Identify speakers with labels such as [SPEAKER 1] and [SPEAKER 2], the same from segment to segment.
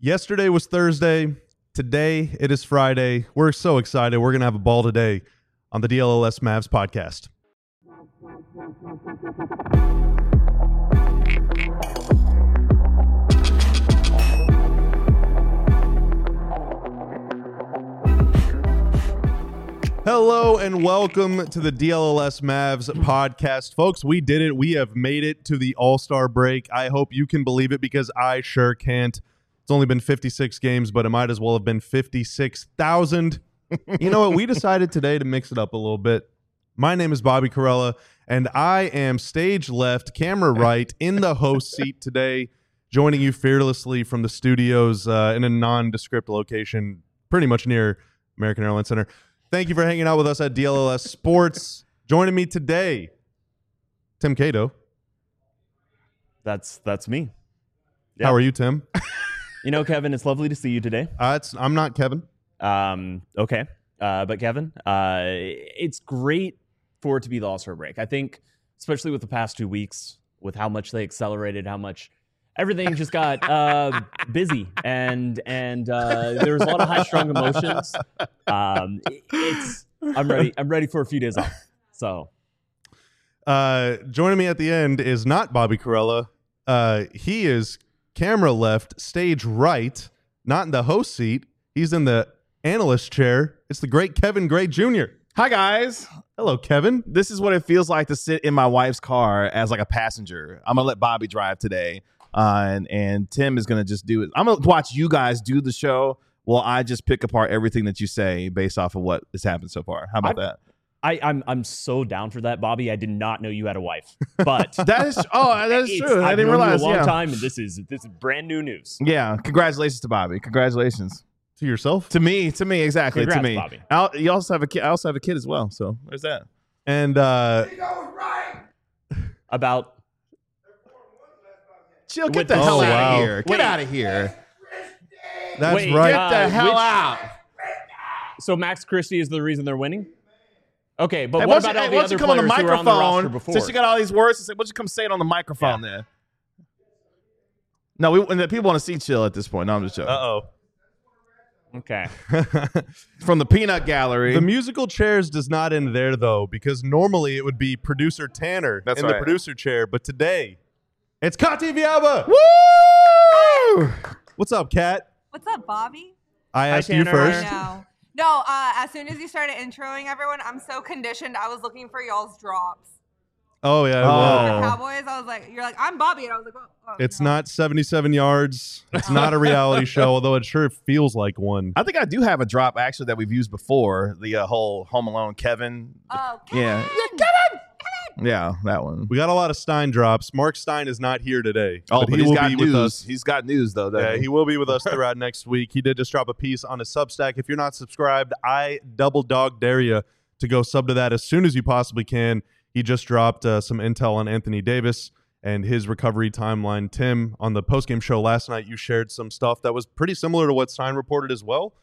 [SPEAKER 1] Yesterday was Thursday. Today it is Friday. We're so excited. We're going to have a ball today on the DLLS Mavs podcast. Hello and welcome to the DLLS Mavs podcast. Folks, we did it. We have made it to the All-Star break. I hope you can believe it because I sure can't. It's only been 56 games, but it might as well have been 56,000. You know what? We decided today to mix it up a little bit. My name is Bobby Carella, and I am stage left, camera right, in the host seat today, joining you fearlessly from the studios in a nondescript location, pretty much near American Airlines Center. Thank you for hanging out with us at DLLS Sports. Joining me today, Tim Cato.
[SPEAKER 2] That's me.
[SPEAKER 1] Yep. How are you, Tim?
[SPEAKER 2] You know, Kevin, it's lovely to see you today.
[SPEAKER 1] I'm not Kevin.
[SPEAKER 2] Okay. But Kevin, it's great for it to be the All-Star break. I think, especially with the past 2 weeks, with how much they accelerated, how much everything just got busy, and there was a lot of high-strung emotions. I'm ready. I'm ready for a few days off. So,
[SPEAKER 1] joining me at the end is not Bobby Carella. He is camera left, stage right, not in the host seat. He's in the analyst chair. It's the great Kevin Gray Jr.
[SPEAKER 3] Hi, guys.
[SPEAKER 1] Hello, Kevin.
[SPEAKER 3] This is what it feels like to sit in my wife's car as like a passenger. I'm going to let Bobby drive today, and Tim is going to just do it. I'm going to watch you guys do the show while I just pick apart everything that you say based off of what has happened so far. How about that?
[SPEAKER 2] I'm so down for that, Bobby. I did not know you had a wife, but
[SPEAKER 3] that is true. I didn't realize.
[SPEAKER 2] You a long time, and this is brand new news.
[SPEAKER 3] Yeah, congratulations to Bobby. Congratulations
[SPEAKER 1] to yourself,
[SPEAKER 3] to me, exactly.
[SPEAKER 2] Congrats,
[SPEAKER 3] to me,
[SPEAKER 2] Bobby.
[SPEAKER 3] You also have a kid. I also have a kid as well. So there's that.
[SPEAKER 1] And
[SPEAKER 2] about
[SPEAKER 3] chill. Get the hell out of here. Get
[SPEAKER 2] Wait.
[SPEAKER 3] out of here.
[SPEAKER 1] That's
[SPEAKER 2] Wait,
[SPEAKER 1] right.
[SPEAKER 3] Get the hell out.
[SPEAKER 2] So Max Christie is the reason they're winning? Okay, but
[SPEAKER 3] Hey,
[SPEAKER 2] what about all the other
[SPEAKER 3] come on the
[SPEAKER 2] players who were on the roster
[SPEAKER 3] microphone?
[SPEAKER 2] before?
[SPEAKER 3] Since you got all these words, why don't you come say it on the microphone there? No, people want to see chill at this point. No, I'm just joking.
[SPEAKER 1] Uh-oh.
[SPEAKER 2] Okay.
[SPEAKER 3] From the peanut gallery.
[SPEAKER 1] The musical chairs does not end there, though, because normally it would be producer Tanner
[SPEAKER 3] That's
[SPEAKER 1] in
[SPEAKER 3] right.
[SPEAKER 1] the producer chair, but today it's Kati Viaba.
[SPEAKER 3] Woo!
[SPEAKER 1] What's up, Kat?
[SPEAKER 4] What's up, Bobby?
[SPEAKER 1] I asked you
[SPEAKER 2] Tanner.
[SPEAKER 1] first.
[SPEAKER 4] No, as soon as you started introing everyone, I'm so conditioned. I was looking for y'all's drops.
[SPEAKER 1] Oh, yeah.
[SPEAKER 3] Oh.
[SPEAKER 4] The Cowboys, I was like, you're like, I'm Bobby. And I was like, oh
[SPEAKER 1] It's
[SPEAKER 4] no.
[SPEAKER 1] not 77 yards. It's not a reality show, although it sure feels like one.
[SPEAKER 3] I think I do have a drop, actually, that we've used before. The whole Home Alone Kevin.
[SPEAKER 4] Oh, Kevin!
[SPEAKER 3] Yeah. Yeah, that one.
[SPEAKER 1] We got a lot of Stein drops. Mark Stein is not here today.
[SPEAKER 3] But
[SPEAKER 1] he
[SPEAKER 3] he's
[SPEAKER 1] will
[SPEAKER 3] got
[SPEAKER 1] be
[SPEAKER 3] news.
[SPEAKER 1] with us.
[SPEAKER 3] He's got news, though.
[SPEAKER 1] Yeah, he will be with us throughout next week. He did just drop a piece on his Substack. If you're not subscribed, I double dog dare you to go sub to that as soon as you possibly can. He just dropped some intel on Anthony Davis and his recovery timeline. Tim, on the postgame show last night, you shared some stuff that was pretty similar to what Stein reported as well.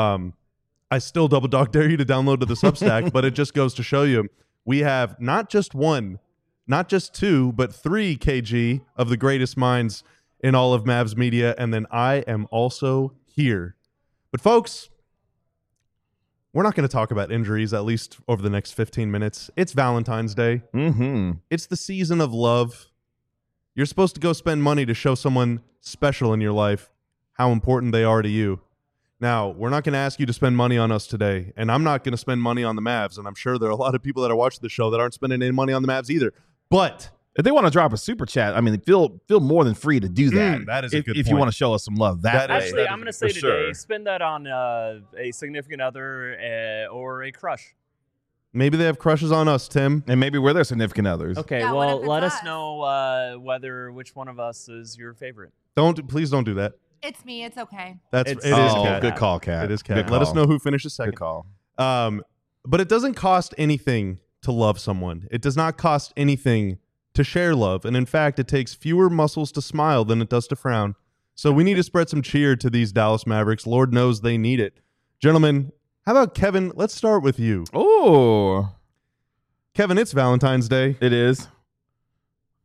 [SPEAKER 1] I still double dog dare you to download to the Substack, but it just goes to show you we have not just one, not just two, but 3 kg of the greatest minds in all of Mavs media, and then I am also here. But folks, we're not going to talk about injuries, at least over the next 15 minutes. It's Valentine's Day.
[SPEAKER 3] Mm-hmm.
[SPEAKER 1] It's the season of love. You're supposed to go spend money to show someone special in your life how important they are to you. Now, we're not going to ask you to spend money on us today, and I'm not going to spend money on the Mavs, and I'm sure there are a lot of people that are watching the show that aren't spending any money on the Mavs either. But
[SPEAKER 3] if they want to drop a super chat, I mean, feel more than free to do that.
[SPEAKER 1] That is a good
[SPEAKER 3] if
[SPEAKER 1] point.
[SPEAKER 3] you want to show us some love that way.
[SPEAKER 2] Actually, I'm going to say
[SPEAKER 3] for
[SPEAKER 2] today,
[SPEAKER 3] sure.
[SPEAKER 2] spend that on a significant other or a crush.
[SPEAKER 1] maybe they have crushes on us, Tim.
[SPEAKER 3] And maybe we're their significant others.
[SPEAKER 2] Okay,
[SPEAKER 4] Yeah, what
[SPEAKER 2] well,
[SPEAKER 4] if it's
[SPEAKER 2] let us
[SPEAKER 4] us?
[SPEAKER 2] know which one of us is your favorite.
[SPEAKER 1] Please don't do that.
[SPEAKER 4] It's me. It's okay.
[SPEAKER 1] It
[SPEAKER 2] It's-
[SPEAKER 1] is
[SPEAKER 3] Oh,
[SPEAKER 1] Kat.
[SPEAKER 3] good call, Kat.
[SPEAKER 1] It is
[SPEAKER 3] Good
[SPEAKER 1] Kat. Let us
[SPEAKER 3] call.
[SPEAKER 1] know who finishes second.
[SPEAKER 3] Good call.
[SPEAKER 1] But it doesn't cost anything to love someone. It does not cost anything to share love. And in fact, it takes fewer muscles to smile than it does to frown. So we need to spread some cheer to these Dallas Mavericks. Lord knows they need it. Gentlemen, how about Kevin? Let's start with you.
[SPEAKER 3] Oh,
[SPEAKER 1] Kevin, it's Valentine's Day.
[SPEAKER 3] it is.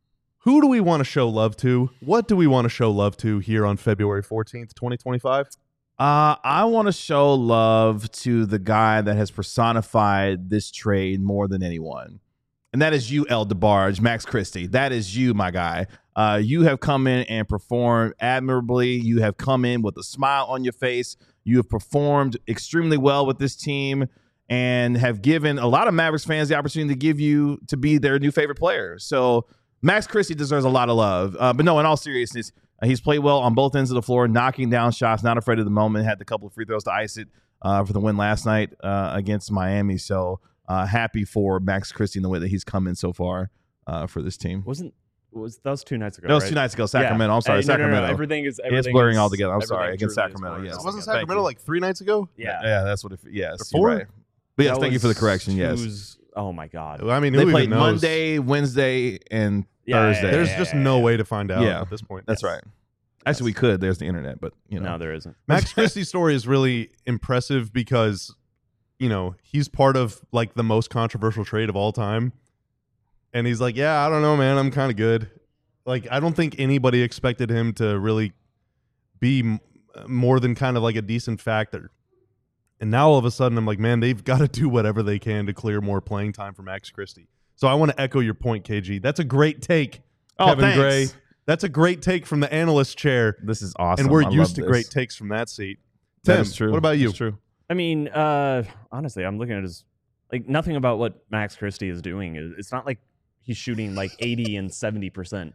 [SPEAKER 1] Who do we want to show love to? What do we want to show love to here on February 14th, 2025?
[SPEAKER 3] I want to show love to the guy that has personified this trade more than anyone. And that is you, El DeBarge, Max Christie. That is you, my guy. You have come in and performed admirably. You have come in with a smile on your face. You have performed extremely well with this team and have given a lot of Mavericks fans the opportunity to be their new favorite player. So Max Christie deserves a lot of love. But no, in all seriousness, he's played well on both ends of the floor, knocking down shots, not afraid of the moment, had a couple of free throws to ice it for the win last night against Miami. So happy for Max Christie in the way that he's come in so far for this team.
[SPEAKER 2] That was 2 nights ago?
[SPEAKER 3] That was
[SPEAKER 2] right?
[SPEAKER 3] 2 nights ago. Sacramento.
[SPEAKER 2] Yeah.
[SPEAKER 3] I'm sorry, Sacramento.
[SPEAKER 2] No. Everything is
[SPEAKER 3] blurring all together. I'm
[SPEAKER 2] everything
[SPEAKER 3] sorry, against
[SPEAKER 2] truly is
[SPEAKER 3] Sacramento.
[SPEAKER 2] blurring.
[SPEAKER 3] Yes.
[SPEAKER 1] Wasn't
[SPEAKER 3] Thank
[SPEAKER 1] Sacramento
[SPEAKER 3] you.
[SPEAKER 1] like 3 nights ago?
[SPEAKER 2] Yeah.
[SPEAKER 3] That's what it. Yes,
[SPEAKER 1] Or 4?
[SPEAKER 3] you're right. But yes,
[SPEAKER 2] That
[SPEAKER 3] thank you for the
[SPEAKER 2] was
[SPEAKER 3] correction. Yes,
[SPEAKER 2] Oh my God.
[SPEAKER 1] I mean,
[SPEAKER 3] they
[SPEAKER 1] who
[SPEAKER 3] played
[SPEAKER 1] even knows?
[SPEAKER 3] Monday, Wednesday, and
[SPEAKER 2] Yeah,
[SPEAKER 3] Thursday.
[SPEAKER 1] There's just no way to find out
[SPEAKER 3] Yeah.
[SPEAKER 1] at this point.
[SPEAKER 3] That's right. Actually, we could. There's the internet, but
[SPEAKER 2] No, there isn't.
[SPEAKER 1] Max Christie's story is really impressive because, he's part of like the most controversial trade of all time. And he's like, yeah, I don't know, man. I'm kind of good. Like, I don't think anybody expected him to really be more than kind of like a decent factor. And now all of a sudden I'm like, man, they've got to do whatever they can to clear more playing time for Max Christie. So I want to echo your point, KG. That's a great take, Kevin
[SPEAKER 3] thanks.
[SPEAKER 1] Gray. That's a great take from the analyst chair.
[SPEAKER 3] This is awesome.
[SPEAKER 1] And we're
[SPEAKER 3] I
[SPEAKER 1] used
[SPEAKER 3] love
[SPEAKER 1] to
[SPEAKER 3] this.
[SPEAKER 1] great takes from that seat.
[SPEAKER 3] That
[SPEAKER 1] Tim,
[SPEAKER 3] is true.
[SPEAKER 1] what about you?
[SPEAKER 3] It's true.
[SPEAKER 2] I mean, honestly, I'm looking at his nothing about what Max Christie is doing. It's not like he's shooting like 80 and 70%.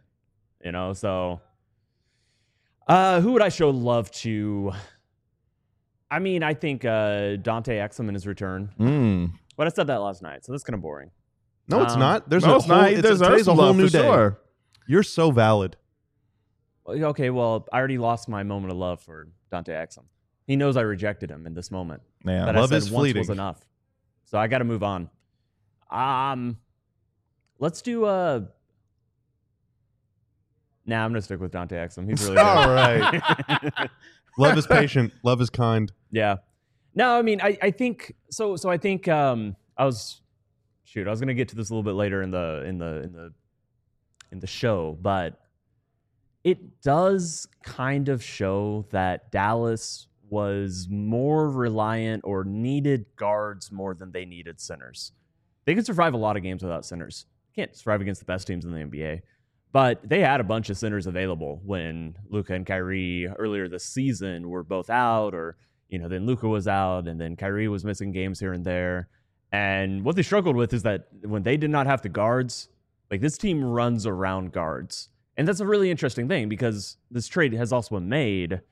[SPEAKER 2] So who would I show love to? I mean, I think Dante Exum in his return. But I said that last night, so that's kind of boring.
[SPEAKER 1] No, it's not. There's
[SPEAKER 3] No,
[SPEAKER 1] a
[SPEAKER 3] it's
[SPEAKER 1] whole,
[SPEAKER 3] not.
[SPEAKER 1] it's,
[SPEAKER 3] There's
[SPEAKER 1] today's a
[SPEAKER 3] some
[SPEAKER 1] whole
[SPEAKER 3] love
[SPEAKER 1] new
[SPEAKER 3] for
[SPEAKER 1] day.
[SPEAKER 3] sure.
[SPEAKER 1] You're so valid.
[SPEAKER 2] Okay, well, I already lost my moment of love for Dante Exum. He knows I rejected him in this moment.
[SPEAKER 3] Yeah.
[SPEAKER 2] That
[SPEAKER 1] Love
[SPEAKER 2] I
[SPEAKER 1] is
[SPEAKER 2] said once
[SPEAKER 1] fleeting.
[SPEAKER 2] was enough. So I got to move on. Let's do Nah, I'm gonna stick with Dante Exum. He's really good.
[SPEAKER 1] All right. Love is patient. Love is kind.
[SPEAKER 2] Yeah. No, I mean, I think so. I think I was gonna get to this a little bit later in the show, but it does kind of show that Dallas was more reliant or needed guards more than they needed centers. They could survive a lot of games without centers. Can't survive against the best teams in the NBA. But they had a bunch of centers available when Luka and Kyrie earlier this season were both out, or then Luka was out, and then Kyrie was missing games here and there. And what they struggled with is that when they did not have the guards, like this team runs around guards. And that's a really interesting thing because this trade has also been made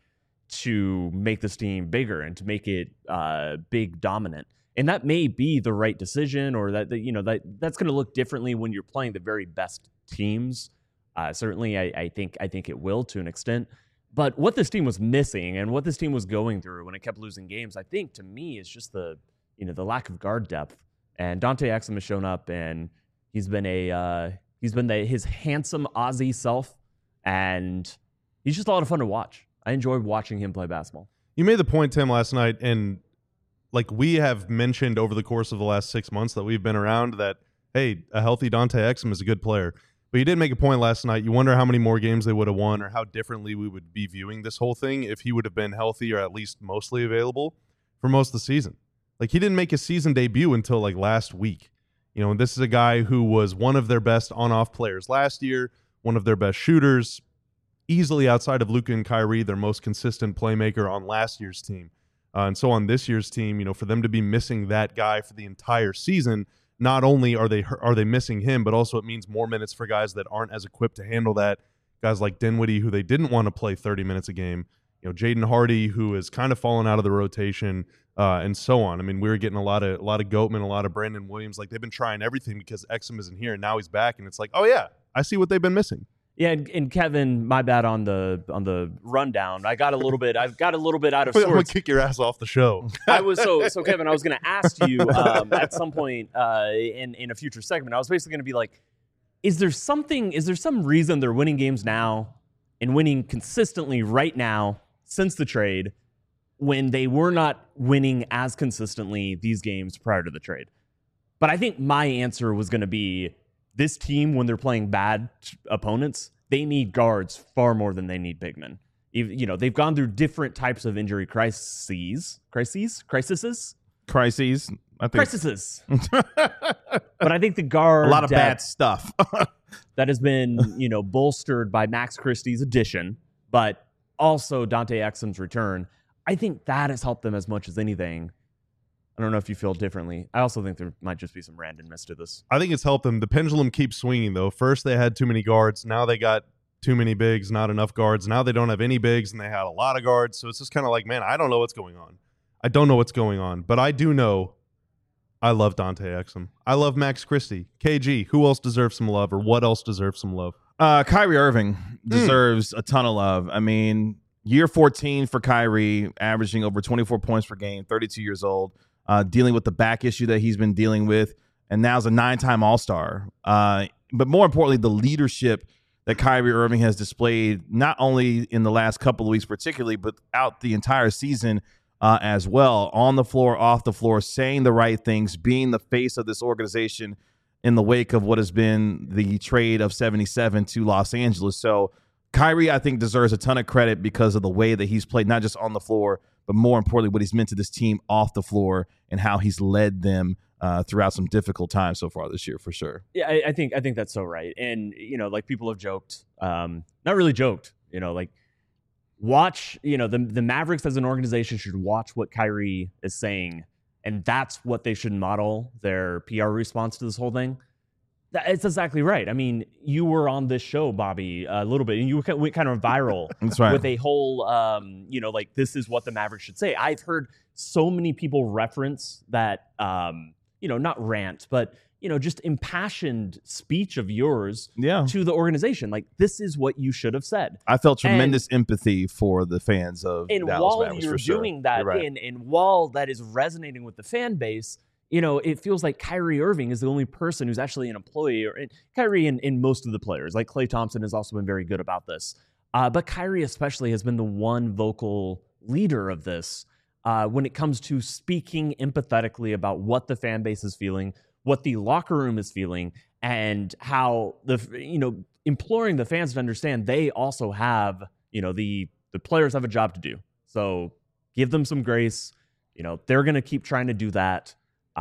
[SPEAKER 2] to make this team bigger and to make it big dominant. And that may be the right decision, or that's going to look differently when you're playing the very best teams. Certainly, I think it will to an extent. But what this team was missing and what this team was going through when it kept losing games, I think to me is just the lack of guard depth. And Dante Exum has shown up, and he's been his handsome Aussie self, and he's just a lot of fun to watch. I enjoy watching him play basketball.
[SPEAKER 1] You made the point, Tim, last night, and like we have mentioned over the course of the last 6 months that we've been around that, hey, a healthy Dante Exum is a good player. But you did make a point last night. You wonder how many more games they would have won or how differently we would be viewing this whole thing if he would have been healthy or at least mostly available for most of the season. Like, he didn't make his season debut until like last week. And this is a guy who was one of their best on-off players last year, one of their best shooters, easily outside of Luka and Kyrie, their most consistent playmaker on last year's team. And so on this year's team, for them to be missing that guy for the entire season, not only are they missing him, but also it means more minutes for guys that aren't as equipped to handle that. Guys like Dinwiddie, who they didn't want to play 30 minutes a game. Jaden Hardy, who has kind of fallen out of the rotation, and so on. I mean, we were getting a lot of Goatman, a lot of Brandon Williams. Like, they've been trying everything because Exum isn't here, and now he's back, and it's like, oh yeah, I see what they've been missing.
[SPEAKER 2] Yeah, and Kevin, my bad on the rundown. I've got a little bit out of
[SPEAKER 1] I'm
[SPEAKER 2] sorts.
[SPEAKER 1] gonna kick your ass off the show.
[SPEAKER 2] I was so Kevin, I was going to ask you at some point in a future segment. I was basically going to be like, is there some reason they're winning games now and winning consistently right now since the trade when they were not winning as consistently these games prior to the trade? But I think my answer was going to be this team, when they're playing bad opponents, they need guards far more than they need big men. You know, they've gone through different types of injury crises. I think. But I think the guard
[SPEAKER 3] A lot of bad stuff.
[SPEAKER 2] that has been, you know, bolstered by Max Christie's addition, but also Dante Exum's return. I think that has helped them as much as anything. I don't know if you feel differently. I also think there might just be some randomness to this.
[SPEAKER 1] I think it's helped them. The pendulum keeps swinging, though. First, they had too many guards. Now they got too many bigs, not enough guards. Now they don't have any bigs, and they had a lot of guards. So it's just kind of like, man, I don't know what's going on. I don't know what's going on. But I do know I love Dante Exum. I love Max Christie. KG, who else deserves some love, or what else deserves some love?
[SPEAKER 3] Kyrie Irving deserves a ton of love. I mean, year 14 for Kyrie, averaging over 24 points per game, 32 years old, dealing with the back issue that he's been dealing with, and now is a 9-time All-Star. But more importantly, the leadership that Kyrie Irving has displayed, not only in the last couple of weeks particularly, but out the entire season as well, on the floor, off the floor, saying the right things, being the face of this organization in the wake of what has been the trade of 77 to Los Angeles. So Kyrie, I think, deserves a ton of credit because of the way that he's played, not just on the floor, but more importantly, what he's meant to this team off the floor and how he's led them throughout some difficult times so far this year, for sure.
[SPEAKER 2] Yeah, I think that's so right. And, you know, like people have joked, not really joked, you know, like watch, you know, the Mavericks as an organization should watch what Kyrie is saying. And that's what they should model their PR response to this whole thing. It's exactly right. I mean, you were on this show, Bobby, a little bit, and you went kind of viral
[SPEAKER 3] That's right.
[SPEAKER 2] with a whole, you know, like, this is what the Mavericks should say. I've heard so many people reference that, you know, not rant, but, you know, just impassioned speech of yours to the organization. Like, this is what you should have said.
[SPEAKER 3] I felt tremendous empathy for the fans of
[SPEAKER 2] and
[SPEAKER 3] Dallas
[SPEAKER 2] while
[SPEAKER 3] Mavericks,
[SPEAKER 2] you're
[SPEAKER 3] for sure.
[SPEAKER 2] doing that,
[SPEAKER 3] Right.
[SPEAKER 2] and while that is resonating with the fan base, you know, it feels like Kyrie Irving is the only person who's actually an employee, or Kyrie and most of the players, like Klay Thompson has also been very good about this. But Kyrie especially has been the one vocal leader of this when it comes to speaking empathetically about what the fan base is feeling, what the locker room is feeling, and how imploring the fans to understand they also have, you know, the players have a job to do. So give them some grace. You know, they're going to keep trying to do that.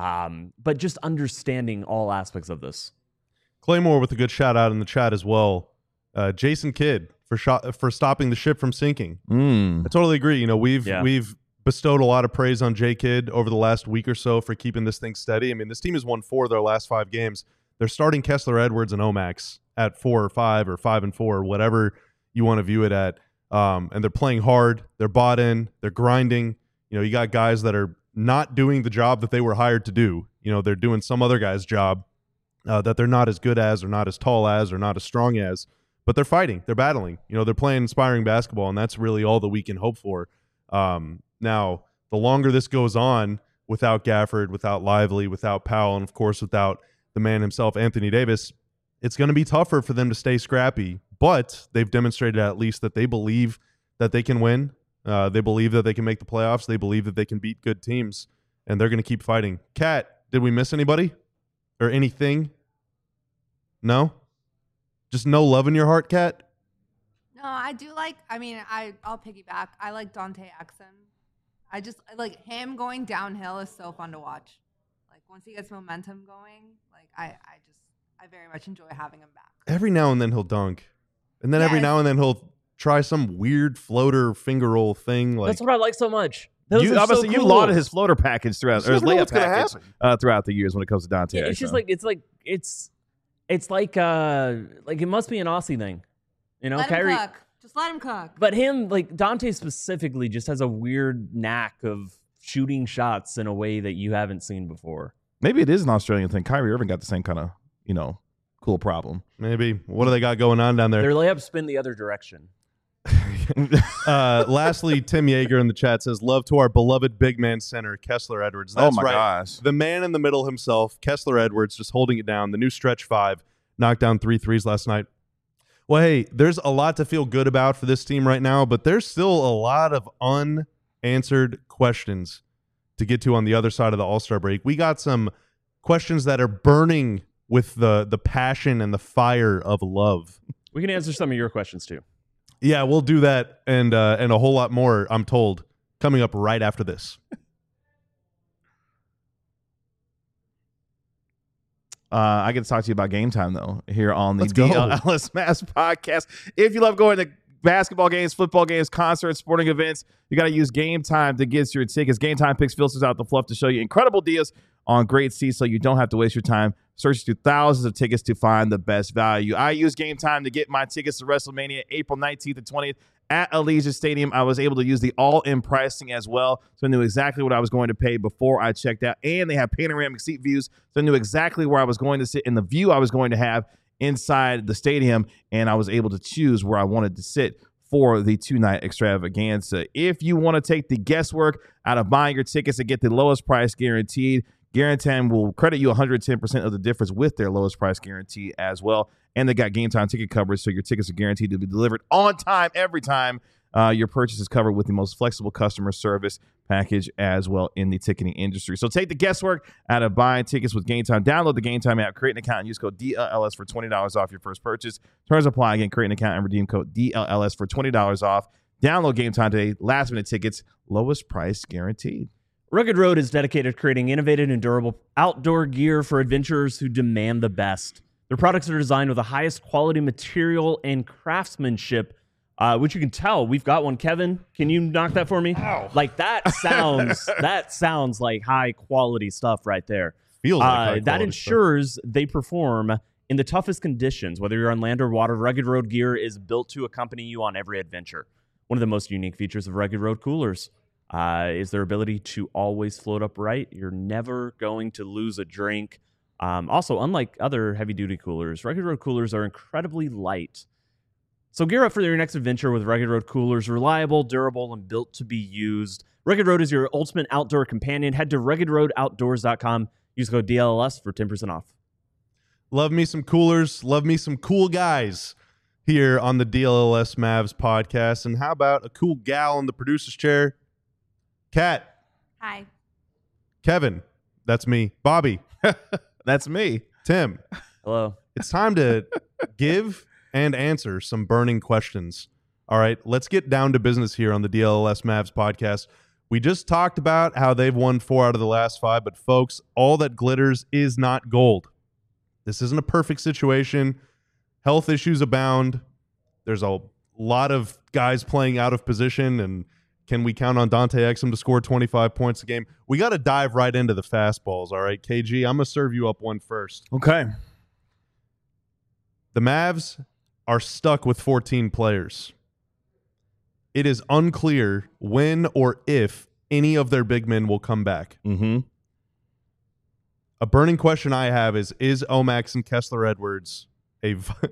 [SPEAKER 2] But just understanding all aspects of this.
[SPEAKER 1] Claymore with a good shout out in the chat as well. Jason Kidd for stopping the ship from sinking. I totally agree. You know, we've bestowed a lot of praise on J Kidd over the last week or so for keeping this thing steady. I mean, this team has won 4 of their last 5 games. They're starting Kessler Edwards and Omax at 4 or 5 or 5 and 4, whatever you want to view it at. And they're playing hard. They're bought in. They're grinding. You know, you got guys that are not doing the job that they were hired to do. You know, they're doing some other guy's job that they're not as good as, or not as tall as, or not as strong as, but they're fighting, they're battling. You know, they're playing inspiring basketball, and that's really all that we can hope for. Now, the longer this goes on without Gafford, without Lively, without Powell, and of course without the man himself, Anthony Davis, it's going to be tougher for them to stay scrappy, but they've demonstrated at least that they believe that they can win. They believe that they can make the playoffs. They believe that they can beat good teams, and they're going to keep fighting. Kat, did we miss anybody or anything? No? Just no love in your heart, Kat?
[SPEAKER 4] No, I do like, I mean, I'll piggyback. I like Dante Exum. I just, like, him going downhill is so fun to watch. Like, once he gets momentum going, like, I very much enjoy having him back.
[SPEAKER 1] Every now and then he'll dunk. And then every
[SPEAKER 4] Yes.
[SPEAKER 1] now and then he'll try some weird floater finger roll thing. Like,
[SPEAKER 2] That's what I like so much. Those
[SPEAKER 3] You
[SPEAKER 2] are so
[SPEAKER 3] obviously you
[SPEAKER 2] cool.
[SPEAKER 3] lauded his floater package throughout, or his
[SPEAKER 1] never know
[SPEAKER 3] layup
[SPEAKER 1] what's gonna
[SPEAKER 3] package throughout the years when it comes to Dante.
[SPEAKER 2] Yeah, it's just
[SPEAKER 3] Exum.
[SPEAKER 2] it's like it must be an Aussie thing, you know.
[SPEAKER 4] Let
[SPEAKER 2] Kyrie,
[SPEAKER 4] him cook. Just let him cook.
[SPEAKER 2] but him, like Dante specifically, just has a weird knack of shooting shots in a way that you haven't seen before.
[SPEAKER 3] Maybe it is an Australian thing. Kyrie Irving got the same kind of, you know, cool problem.
[SPEAKER 1] maybe. What do they got going on down there?
[SPEAKER 2] Their layups spin the other direction.
[SPEAKER 1] Lastly, Tim Yeager in the chat says, love to our beloved big man center, Kessler Edwards.
[SPEAKER 3] Oh
[SPEAKER 1] That's
[SPEAKER 3] my
[SPEAKER 1] right.
[SPEAKER 3] gosh.
[SPEAKER 1] The man in the middle himself, Kessler Edwards, just holding it down. The new stretch 5, knocked down 3 threes last night. Well, hey, there's a lot to feel good about for this team right now, but there's still a lot of unanswered questions to get to on the other side of the All-Star break. We got some questions that are burning with the passion and the fire of love.
[SPEAKER 2] We can answer some of your questions too.
[SPEAKER 1] Yeah, we'll do that and a whole lot more, I'm told, coming up right after this.
[SPEAKER 3] I get to talk to you about Game Time, though, here on the
[SPEAKER 1] Let's go.
[SPEAKER 3] DLS Mavs podcast. If you love going to basketball games, football games, concerts, sporting events, you got to use Game Time to get your tickets. Game Time picks filters out the fluff to show you incredible deals on great seats so you don't have to waste your time searching through thousands of tickets to find the best value. I use Game Time to get my tickets to WrestleMania April 19th and 20th at Allegiant Stadium. I was able to use the all-in pricing as well, so I knew exactly what I was going to pay before I checked out. And they have panoramic seat views, so I knew exactly where I was going to sit and the view I was going to have inside the stadium, and I was able to choose where I wanted to sit for the two-night extravaganza. If you want to take the guesswork out of buying your tickets and get the lowest price guaranteed, Guaranteed will credit you 110% of the difference with their lowest price guarantee as well. And they got Game Time ticket coverage, so your tickets are guaranteed to be delivered on time every time. Your purchase is covered with the most flexible customer service package as well in the ticketing industry. So take the guesswork out of buying tickets with Game Time. Download the Game Time app, create an account, and use code DLS for $20 off your first purchase. Terms apply. Again, create an account and redeem code DLS for $20 off. Download Game Time today. Last minute tickets, lowest price guaranteed.
[SPEAKER 2] Rugged Road is dedicated to creating innovative and durable outdoor gear for adventurers who demand the best. Their products are designed with the highest quality material and craftsmanship, which you can tell. We've got one. Kevin, can you knock that for me?
[SPEAKER 1] Ow.
[SPEAKER 2] Like that sounds like high quality stuff right there.
[SPEAKER 1] Feels like high
[SPEAKER 2] that
[SPEAKER 1] quality
[SPEAKER 2] ensures they perform in the toughest conditions. Whether you're on land or water, Rugged Road gear is built to accompany you on every adventure. One of the most unique features of Rugged Road coolers is their ability to always float upright. You're never going to lose a drink. Also, unlike other heavy-duty coolers, Rugged Road coolers are incredibly light. So gear up for your next adventure with Rugged Road coolers. Reliable, durable, and built to be used. Rugged Road is your ultimate outdoor companion. Head to ruggedroadoutdoors.com. Use code DLS for 10% off.
[SPEAKER 1] Love me some coolers. Love me some cool guys here on the DLS Mavs podcast. And how about a cool gal in the producer's chair? Kat.
[SPEAKER 4] Hi.
[SPEAKER 1] Kevin. That's me. Bobby.
[SPEAKER 3] That's me.
[SPEAKER 1] Tim.
[SPEAKER 2] Hello.
[SPEAKER 1] It's time to give and answer some burning questions. All right, let's get down to business here on the DLS Mavs podcast. We just talked about how they've won 4 out of the last 5, but folks, all that glitters is not gold. This isn't a perfect situation. Health issues abound. There's a lot of guys playing out of position, and can we count on Dante Exum to score 25 points a game? We got to dive right into the fastballs, all right? KG, I'm going to serve you up one first.
[SPEAKER 3] Okay.
[SPEAKER 1] The Mavs are stuck with 14 players. It is unclear when or if any of their big men will come back.
[SPEAKER 3] Mm-hmm.
[SPEAKER 1] A burning question I have is Omax and Kessler Edwards a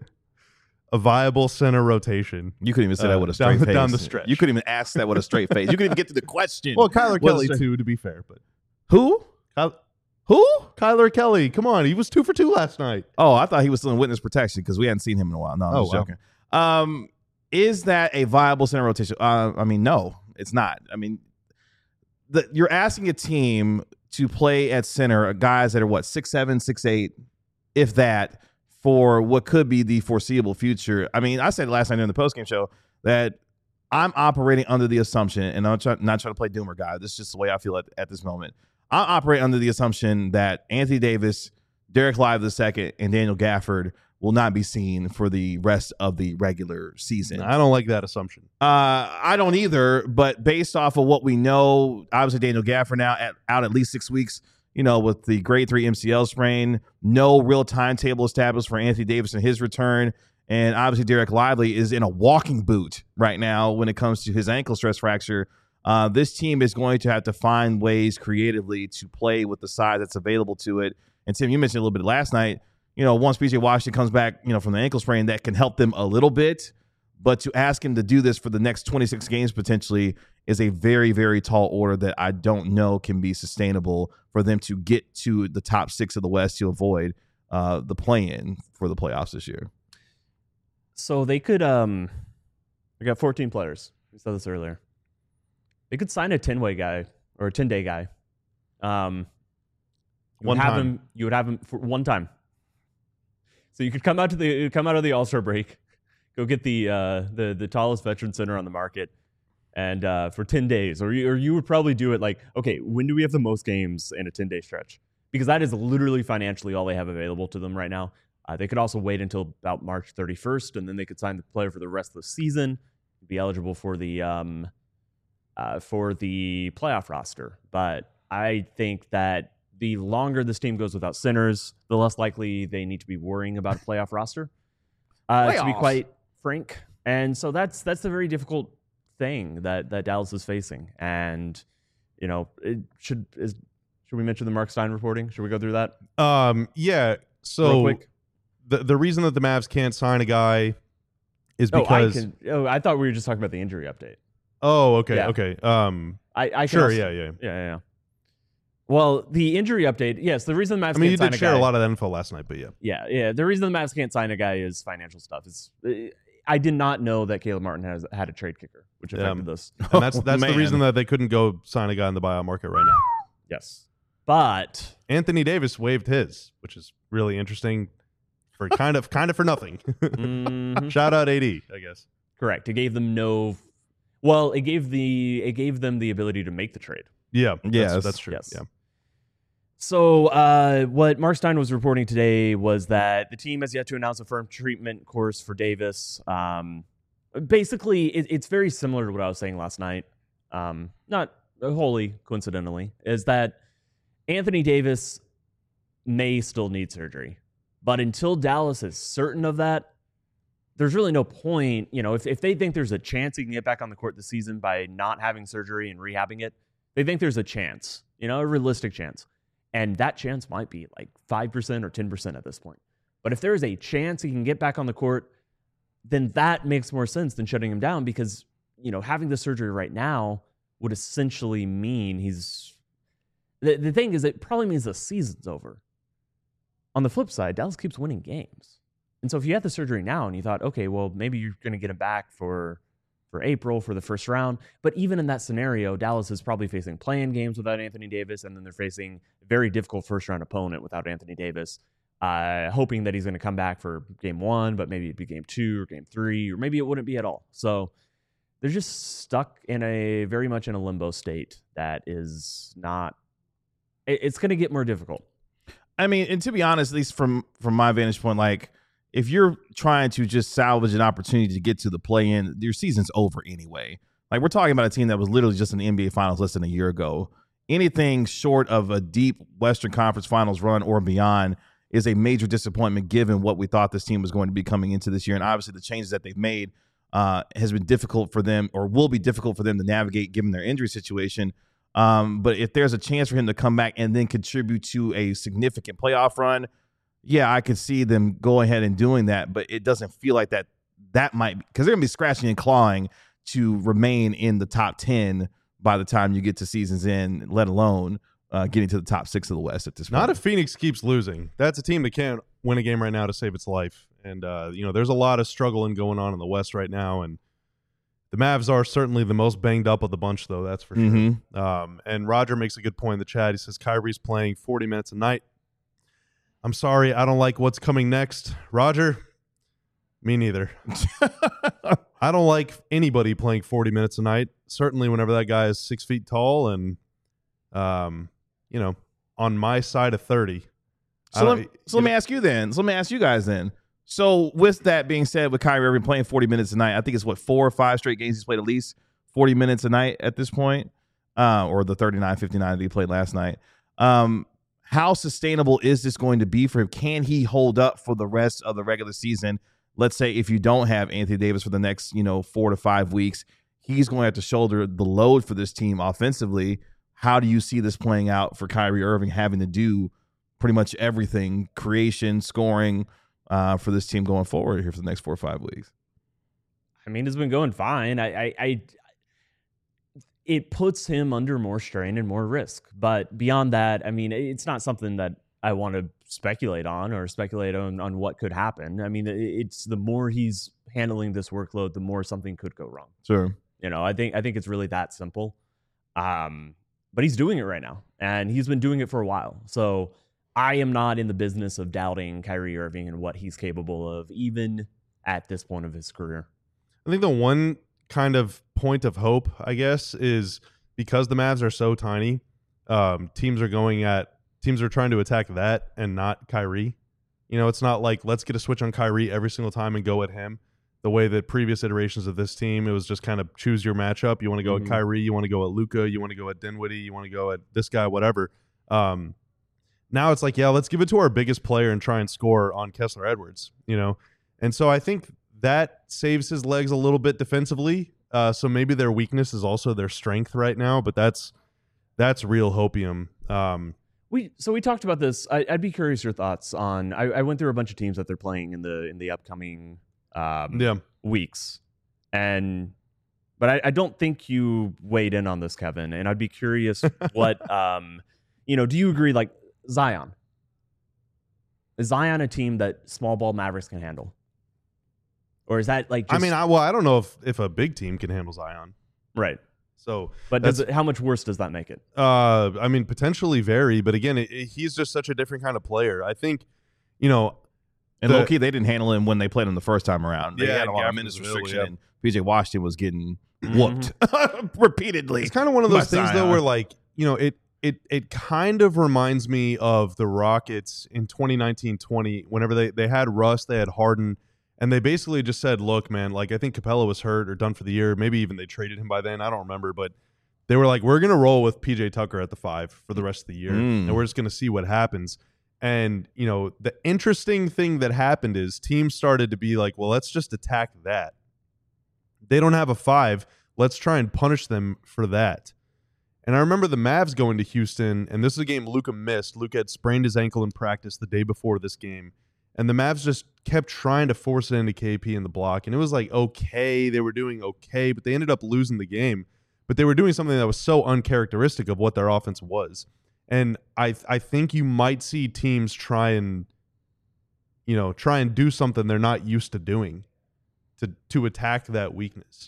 [SPEAKER 1] viable center rotation?
[SPEAKER 3] You couldn't even say that with a straight face.
[SPEAKER 1] Down the stretch.
[SPEAKER 3] You couldn't even ask that with a straight face. You couldn't even get to the question.
[SPEAKER 1] Well, Kyler
[SPEAKER 3] With a
[SPEAKER 1] Kelly,
[SPEAKER 3] straight-
[SPEAKER 1] too, to be fair. But
[SPEAKER 3] Who?
[SPEAKER 1] Who? Kyler Kelly. Come on. He was 2 for 2 last night.
[SPEAKER 3] Oh, I thought he was still in witness protection because we hadn't seen him in a while. No, I'm just joking. Is that a viable center rotation? I mean, no, it's not. I mean, you're asking a team to play at center, guys that are, 6'7", 6'8", if that, for what could be the foreseeable future. I mean, I said last night during the postgame show that I'm operating under the assumption, and I'm not trying to play doomer guy. This is just the way I feel at this moment. I operate under the assumption that Anthony Davis, Derek Lively II, and Daniel Gafford will not be seen for the rest of the regular season.
[SPEAKER 1] I don't like that assumption.
[SPEAKER 3] I don't either, but based off of what we know, obviously Daniel Gafford now out at least 6 weeks, with the grade 3 MCL sprain, no real timetable established for Anthony Davis and his return. And obviously Derek Lively is in a walking boot right now when it comes to his ankle stress fracture. This team is going to have to find ways creatively to play with the size that's available to it. And Tim, you mentioned a little bit last night, once PJ Washington comes back, from the ankle sprain, that can help them a little bit. But to ask him to do this for the next 26 games potentially is a very, very tall order that I don't know can be sustainable for them to get to the top 6 of the West to avoid the play-in for the playoffs this year.
[SPEAKER 2] So they could they got 14 players. We said this earlier. They could sign a 10-way guy or a 10-day guy. You would have him for one time. So you could come out of the All-Star break, go get the tallest veteran center on the market, and for 10 days, or you would probably do it like, okay, when do we have the most games in a 10-day stretch? Because that is literally financially all they have available to them right now. They could also wait until about March 31st, and then they could sign the player for the rest of the season, be eligible for the playoff roster. But I think that the longer this team goes without centers, the less likely they need to be worrying about a playoff roster. To be quite frank, and so that's the very difficult thing that Dallas is facing. And should we mention the Mark Stein reporting? Should we go through that?
[SPEAKER 1] Yeah. So
[SPEAKER 2] real quick.
[SPEAKER 1] The reason that the Mavs can't sign a guy is because
[SPEAKER 2] I thought we were just talking about the injury update.
[SPEAKER 1] Oh, okay,
[SPEAKER 2] Yeah.
[SPEAKER 1] okay.
[SPEAKER 2] I
[SPEAKER 1] Sure,
[SPEAKER 2] also,
[SPEAKER 1] yeah.
[SPEAKER 2] Well, the injury update, yes. The reason the Mavs
[SPEAKER 1] I mean, you
[SPEAKER 2] can't sign
[SPEAKER 1] did
[SPEAKER 2] a
[SPEAKER 1] share
[SPEAKER 2] guy,
[SPEAKER 1] a lot of that info last night, but yeah.
[SPEAKER 2] Yeah. The reason the Mavs can't sign a guy is financial stuff. I did not know that Caleb Martin has had a trade kicker, which affected this.
[SPEAKER 1] And that's the
[SPEAKER 3] man.
[SPEAKER 1] reason that they couldn't go sign a guy in the buyout market right now.
[SPEAKER 2] Yes, but
[SPEAKER 1] Anthony Davis waived his, which is really interesting for kind of for nothing.
[SPEAKER 2] mhm.
[SPEAKER 1] Shout out AD, I guess.
[SPEAKER 2] Correct. It gave them no. Well, it gave them the ability to make the trade.
[SPEAKER 1] Yeah,
[SPEAKER 3] Yes.
[SPEAKER 1] that's true.
[SPEAKER 2] Yes.
[SPEAKER 1] Yeah.
[SPEAKER 2] So what Mark Stein was reporting today was that the team has yet to announce a firm treatment course for Davis. Basically, it's very similar to what I was saying last night. Not wholly coincidentally, is that Anthony Davis may still need surgery. But until Dallas is certain of that, there's really no point. If they think there's a chance he can get back on the court this season by not having surgery and rehabbing it, they think there's a chance, a realistic chance. And that chance might be like 5% or 10% at this point. But if there's a chance he can get back on the court, then that makes more sense than shutting him down because, having the surgery right now would essentially mean the thing is, it probably means the season's over. On the flip side, Dallas keeps winning games. And so if you had the surgery now and you thought, okay, well, maybe you're going to get him back for April for the first round. But even in that scenario, Dallas is probably facing play-in games without Anthony Davis, and then they're facing a very difficult first-round opponent without Anthony Davis, hoping that he's going to come back for game 1, but maybe it'd be game 2 or game 3, or maybe it wouldn't be at all. So they're just stuck in very much in a limbo state that is not – it's going to get more difficult.
[SPEAKER 3] I mean, and to be honest, at least from my vantage point, like if you're trying to just salvage an opportunity to get to the play-in, your season's over anyway. Like we're talking about a team that was literally just in the NBA Finals less than a year ago. Anything short of a deep Western Conference Finals run or beyond is a major disappointment given what we thought this team was going to be coming into this year. And obviously the changes that they've made has been difficult for them or will be difficult for them to navigate given their injury situation. But if there's a chance for him to come back and then contribute to a significant playoff run, yeah, I could see them go ahead and doing that. But it doesn't feel like that might – because they're going to be scratching and clawing to remain in the top 10 by the time you get to season's end, let alone getting to the top 6 of the West at this point.
[SPEAKER 1] Not if Phoenix keeps losing. That's a team that can't win a game right now to save its life. And, there's a lot of struggling going on in the West right now. And the Mavs are certainly the most banged up of the bunch, though. That's for sure.
[SPEAKER 3] Mm-hmm.
[SPEAKER 1] And Roger makes a good point in the chat. He says Kyrie's playing 40 minutes a night. I'm sorry. I don't like what's coming next. Roger, me neither. I don't like anybody playing 40 minutes a night. Certainly whenever that guy is 6 feet tall and, on my side of 30.
[SPEAKER 3] So let me ask you then. So let me ask you guys then. So with that being said, with Kyrie Irving playing 40 minutes a night, I think it's 4 or 5 straight games he's played at least 40 minutes a night at this point, or the 39-59 that he played last night. How sustainable is this going to be for him? Can he hold up for the rest of the regular season? Let's say if you don't have Anthony Davis for the next 4 to 5 weeks, he's going to have to shoulder the load for this team offensively. How do you see this playing out for Kyrie Irving having to do pretty much everything, creation, scoring, for this team going forward here for the next 4 or 5 weeks?
[SPEAKER 2] I mean, it's been going fine. It puts him under more strain and more risk. But beyond that, I mean, it's not something that I want to speculate on on what could happen. I mean, it's the more he's handling this workload, the more something could go wrong.
[SPEAKER 3] Sure.
[SPEAKER 2] I think it's really that simple. But he's doing it right now, and he's been doing it for a while. So I am not in the business of doubting Kyrie Irving and what he's capable of, even at this point of his career.
[SPEAKER 1] I think the one kind of point of hope, I guess, is because the Mavs are so tiny, teams are trying to attack that and not Kyrie. You know, it's not like let's get a switch on Kyrie every single time and go at him. The way that previous iterations of this team, it was just kind of choose your matchup. You want to go at Kyrie, you want to go at Luka, you want to go at Dinwiddie, you want to go at this guy, whatever. Now it's like, yeah, let's give it to our biggest player and try and score on Kessler Edwards, you know? And so I think that saves his legs a little bit defensively. So maybe their weakness is also their strength right now, but that's real hopium.
[SPEAKER 2] We talked about this. I'd be curious your thoughts on. I went through a bunch of teams that they're playing in the upcoming weeks, but I don't think you weighed in on this, Kevin. And I'd be curious what do you agree? Like Zion, is Zion a team that small ball Mavericks can handle, or is that like? Just,
[SPEAKER 1] I don't know if a big team can handle Zion,
[SPEAKER 2] right?
[SPEAKER 1] So,
[SPEAKER 2] but how much worse does that make it?
[SPEAKER 1] Potentially very. But again, he's just such a different kind of player. I think, you know,
[SPEAKER 3] and low-key, they didn't handle him when they played him the first time around. They had a lot of minutes restriction, and PJ Washington was getting whooped repeatedly.
[SPEAKER 1] It's kind of one of those things, though, where, like, you know, it kind of reminds me of the Rockets in 2019-20, whenever they had Russ, they had Harden, and they basically just said, look, man, like, I think Capella was hurt or done for the year. Maybe even they traded him by then. I don't remember, but they were like, we're going to roll with PJ Tucker at the 5 for the rest of the year, and we're just going to see what happens. And, you know, the interesting thing that happened is teams started to be like, well, let's just attack that. They don't have a 5. Let's try and punish them for that. And I remember the Mavs going to Houston, and this is a game Luka missed. Luka had sprained his ankle in practice the day before this game. And the Mavs just kept trying to force it into KP in the block. And it was like, okay, they were doing okay, but they ended up losing the game. But they were doing something that was so uncharacteristic of what their offense was. And I think you might see teams try and do something they're not used to doing to attack that weakness.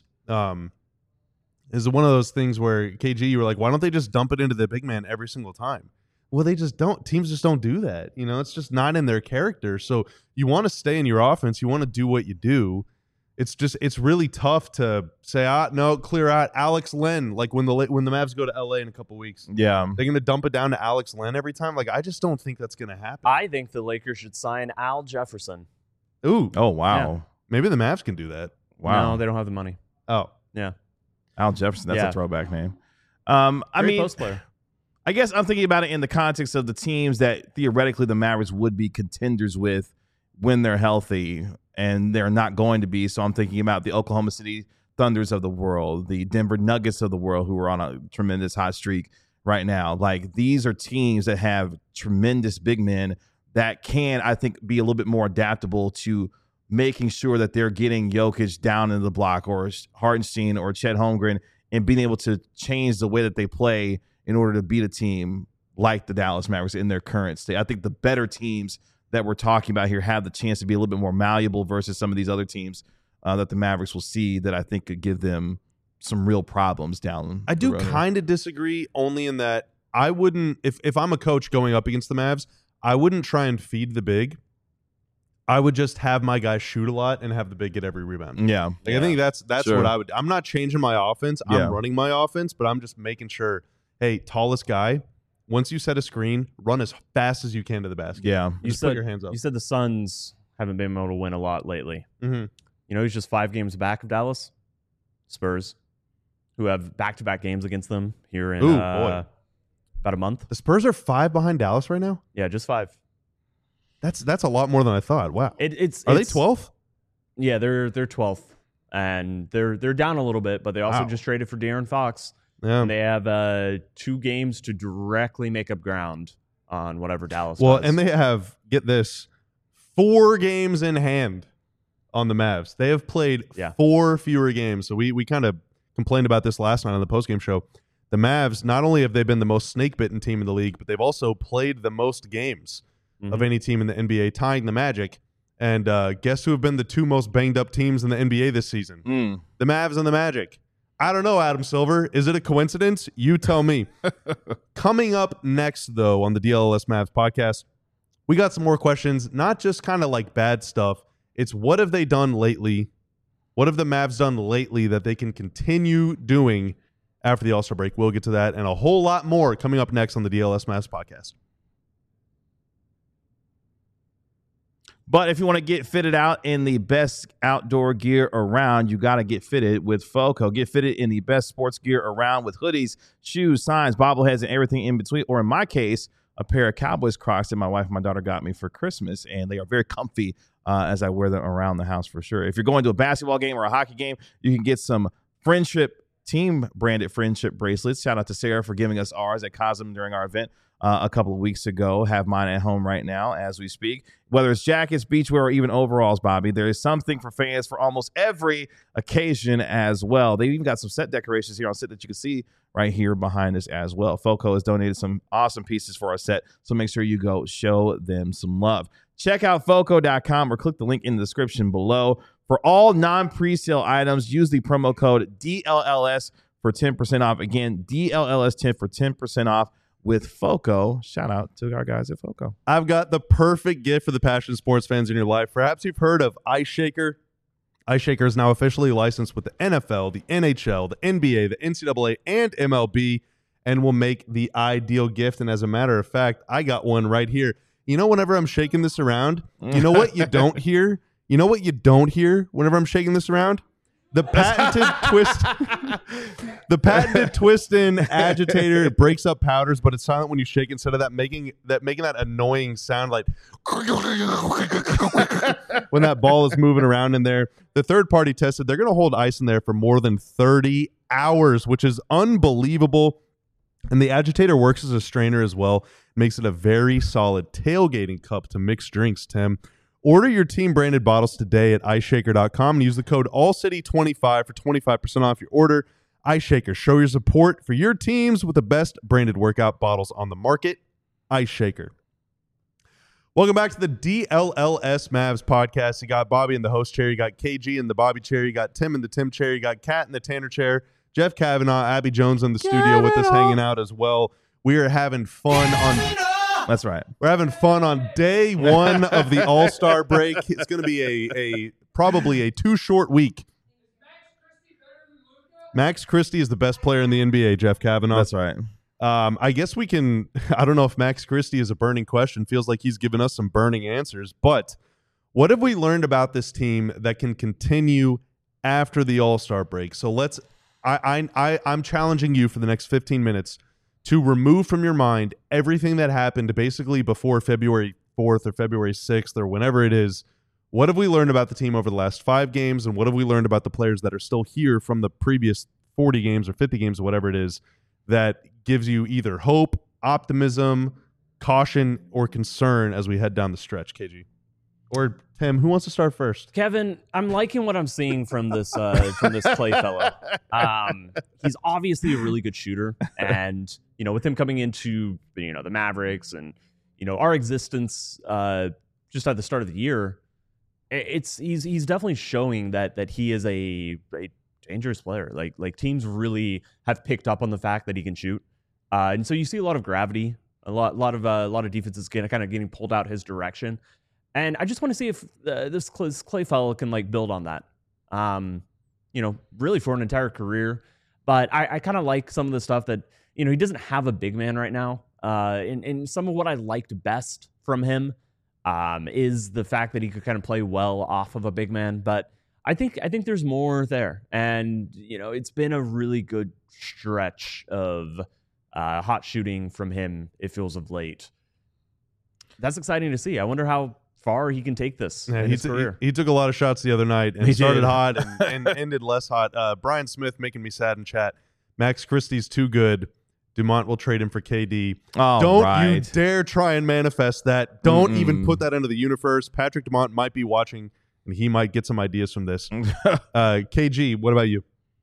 [SPEAKER 1] Is one of those things where, KG, you were like, why don't they just dump it into the big man every single time? Well, they just don't. Teams just don't do that. You know, it's just not in their character. So you want to stay in your offense. You want to do what you do. It's really tough to say, no, clear out Alex Len. Like when the Mavs go to LA in a couple weeks.
[SPEAKER 3] Yeah.
[SPEAKER 1] They're going to dump it down to Alex Len every time. Like, I just don't think that's going to happen.
[SPEAKER 2] I think the Lakers should sign Al Jefferson.
[SPEAKER 1] Ooh.
[SPEAKER 3] Oh, wow.
[SPEAKER 2] Yeah.
[SPEAKER 1] Maybe the Mavs can do that.
[SPEAKER 3] Wow.
[SPEAKER 2] No, they don't have the money.
[SPEAKER 1] Oh.
[SPEAKER 2] Yeah.
[SPEAKER 3] Al Jefferson, that's
[SPEAKER 2] Yeah.
[SPEAKER 3] a throwback name.
[SPEAKER 2] Great post player.
[SPEAKER 3] I guess I'm thinking about it in the context of the teams that theoretically the Mavericks would be contenders with when they're healthy, and they're not going to be. So I'm thinking about the Oklahoma City Thunders of the world, the Denver Nuggets of the world, who are on a tremendous hot streak right now. Like, these are teams that have tremendous big men that can, I think, be a little bit more adaptable to making sure that they're getting Jokic down in the block, or Hartenstein or Chet Holmgren, and being able to change the way that they play in order to beat a team like the Dallas Mavericks in their current state. I think the better teams that we're talking about here have the chance to be a little bit more malleable versus some of these other teams that the Mavericks will see that I think could give them some real problems down.
[SPEAKER 1] I do kind of disagree, only in that I wouldn't, if I'm a coach going up against the Mavs, I wouldn't try and feed the big. I would just have my guys shoot a lot and have the big get every rebound.
[SPEAKER 3] Yeah.
[SPEAKER 1] Like, I think that's
[SPEAKER 3] Sure.
[SPEAKER 1] what I would. I'm not changing my offense. I'm running my offense, but I'm just making sure, hey, tallest guy, once you set a screen, run as fast as you can to the basket.
[SPEAKER 3] Yeah.
[SPEAKER 1] Just put your hands up.
[SPEAKER 2] You said the Suns haven't been able to win a lot lately.
[SPEAKER 1] Mm-hmm.
[SPEAKER 2] You know, he's just 5 games back of Dallas. Spurs, who have back-to-back games against them here in about a month.
[SPEAKER 1] The Spurs are 5 behind Dallas right now?
[SPEAKER 2] Yeah, just 5.
[SPEAKER 1] That's a lot more than I thought. Wow.
[SPEAKER 2] Are
[SPEAKER 1] they 12th?
[SPEAKER 2] Yeah, they're 12th, and they're down a little bit, but they also just traded for De'Aaron Fox.
[SPEAKER 1] Yeah.
[SPEAKER 2] And they have 2 games to directly make up ground on whatever Dallas
[SPEAKER 1] Well,
[SPEAKER 2] does.
[SPEAKER 1] and they have, get this, 4 games in hand on the Mavs. They have played 4 fewer games. So we kind of complained about this last night on the postgame show. The Mavs, not only have they been the most snake-bitten team in the league, but they've also played the most games of any team in the NBA, tying the Magic. And guess who have been the 2 most banged-up teams in the NBA this season? The Mavs and the Magic. I don't know, Adam Silver. Is it a coincidence? You tell me. Coming up next, though, on the DLS Mavs podcast, we got some more questions, not just kind of like bad stuff. It's what have they done lately? What have the Mavs done lately that they can continue doing after the All-Star break? We'll get to that and a whole lot more coming up next on the DLS Mavs podcast.
[SPEAKER 3] But if you want to get fitted out in the best outdoor gear around, you got to get fitted with FOCO. Get fitted in the best sports gear around with hoodies, shoes, signs, bobbleheads, and everything in between. Or in my case, a pair of Cowboys Crocs that my wife and my daughter got me for Christmas, and they are very comfy as I wear them around the house for sure. If you're going to a basketball game or a hockey game, you can get some Friendship team branded Friendship bracelets. Shout out to Sarah for giving us ours at Cosm during our event a couple of weeks ago. Have mine at home right now as we speak. Whether it's jackets, beachwear, or even overalls, Bobby, there is something for fans for almost every occasion as well. They even got some set decorations here on set that you can see right here behind us as well. FOCO has donated some awesome pieces for our set, so make sure you go show them some love. Check out FOCO.com or click the link in the description below. For all non-presale items, use the promo code DLLS for 10% off. Again, DLLS10 for 10% off with FOCO. Shout out to our guys at FOCO.
[SPEAKER 1] I've got the perfect gift for the passionate sports fans in your life. Perhaps you've heard of Ice Shaker. Ice Shaker is now officially licensed with the NFL, the NHL, the NBA, the NCAA, and MLB, and will make the ideal gift. And as a matter of fact, I got one right here. You know, whenever I'm shaking this around, you know what you don't hear? You know what you don't hear whenever I'm shaking this around? The patented twist. The patented twist-in agitator. It breaks up powders, but it's silent when you shake instead of that making that annoying sound like when that ball is moving around in there. The third party tested they're going to hold ice in there for more than 30 hours, which is unbelievable. And the agitator works as a strainer as well. Makes it a very solid tailgating cup to mix drinks, Tim. Order your team-branded bottles today at iceshaker.com and use the code ALLCITY25 for 25% off your order. Ice Shaker, show your support for your teams with the best branded workout bottles on the market. Ice Shaker. Welcome back to the DLLS Mavs podcast. You got Bobby in the host chair. You got KG in the Bobby chair. You got Tim in the Tim chair. You got Kat in the Tanner chair. Jeff Kavanaugh, Abby Jones in the studio with us hanging out as well. We are having fun on...
[SPEAKER 3] That's right.
[SPEAKER 1] We're having fun on day one of the All-Star break. It's going to be probably a too short week. Max Christie is the best player in the NBA, Jeff Kavanaugh.
[SPEAKER 3] That's right.
[SPEAKER 1] I guess we can, I don't know if Max Christie is a burning question. Feels like he's given us some burning answers. But what have we learned about this team that can continue after the All-Star break? So I'm challenging you for the next 15 minutes to remove from your mind everything that happened basically before February 4th or February 6th or whenever it is. What have we learned about the team over the last 5 games, and what have we learned about the players that are still here from the previous 40 games or 50 games or whatever it is that gives you either hope, optimism, caution, or concern as we head down the stretch, KG? Or Tim, who wants to start first?
[SPEAKER 2] Kevin, I'm liking what I'm seeing from this Clay fellow. He's obviously a really good shooter, and with him coming into the Mavericks and our existence just at the start of the year, he's definitely showing that he is a dangerous player. Like teams really have picked up on the fact that he can shoot, and so you see a lot of gravity, a lot of defenses kind of getting pulled out his direction. And I just want to see if this Clay fellow can build on that, really for an entire career. But I kind of like some of the stuff that, he doesn't have a big man right now. And some of what I liked best from him is the fact that he could kind of play well off of a big man. But I think there's more there. And, it's been a really good stretch of hot shooting from him, it feels, of late. That's exciting to see. I wonder how far he can take this in his career.
[SPEAKER 1] He took a lot of shots the other night and started hot and ended less hot. Brian Smith making me sad in chat. Max Christie's too good. Dumont will trade him for KD.
[SPEAKER 3] Oh,
[SPEAKER 1] Don't you dare try and manifest that. Don't even put that into the universe. Patrick Dumont might be watching, and he might get some ideas from this. KG, what about you?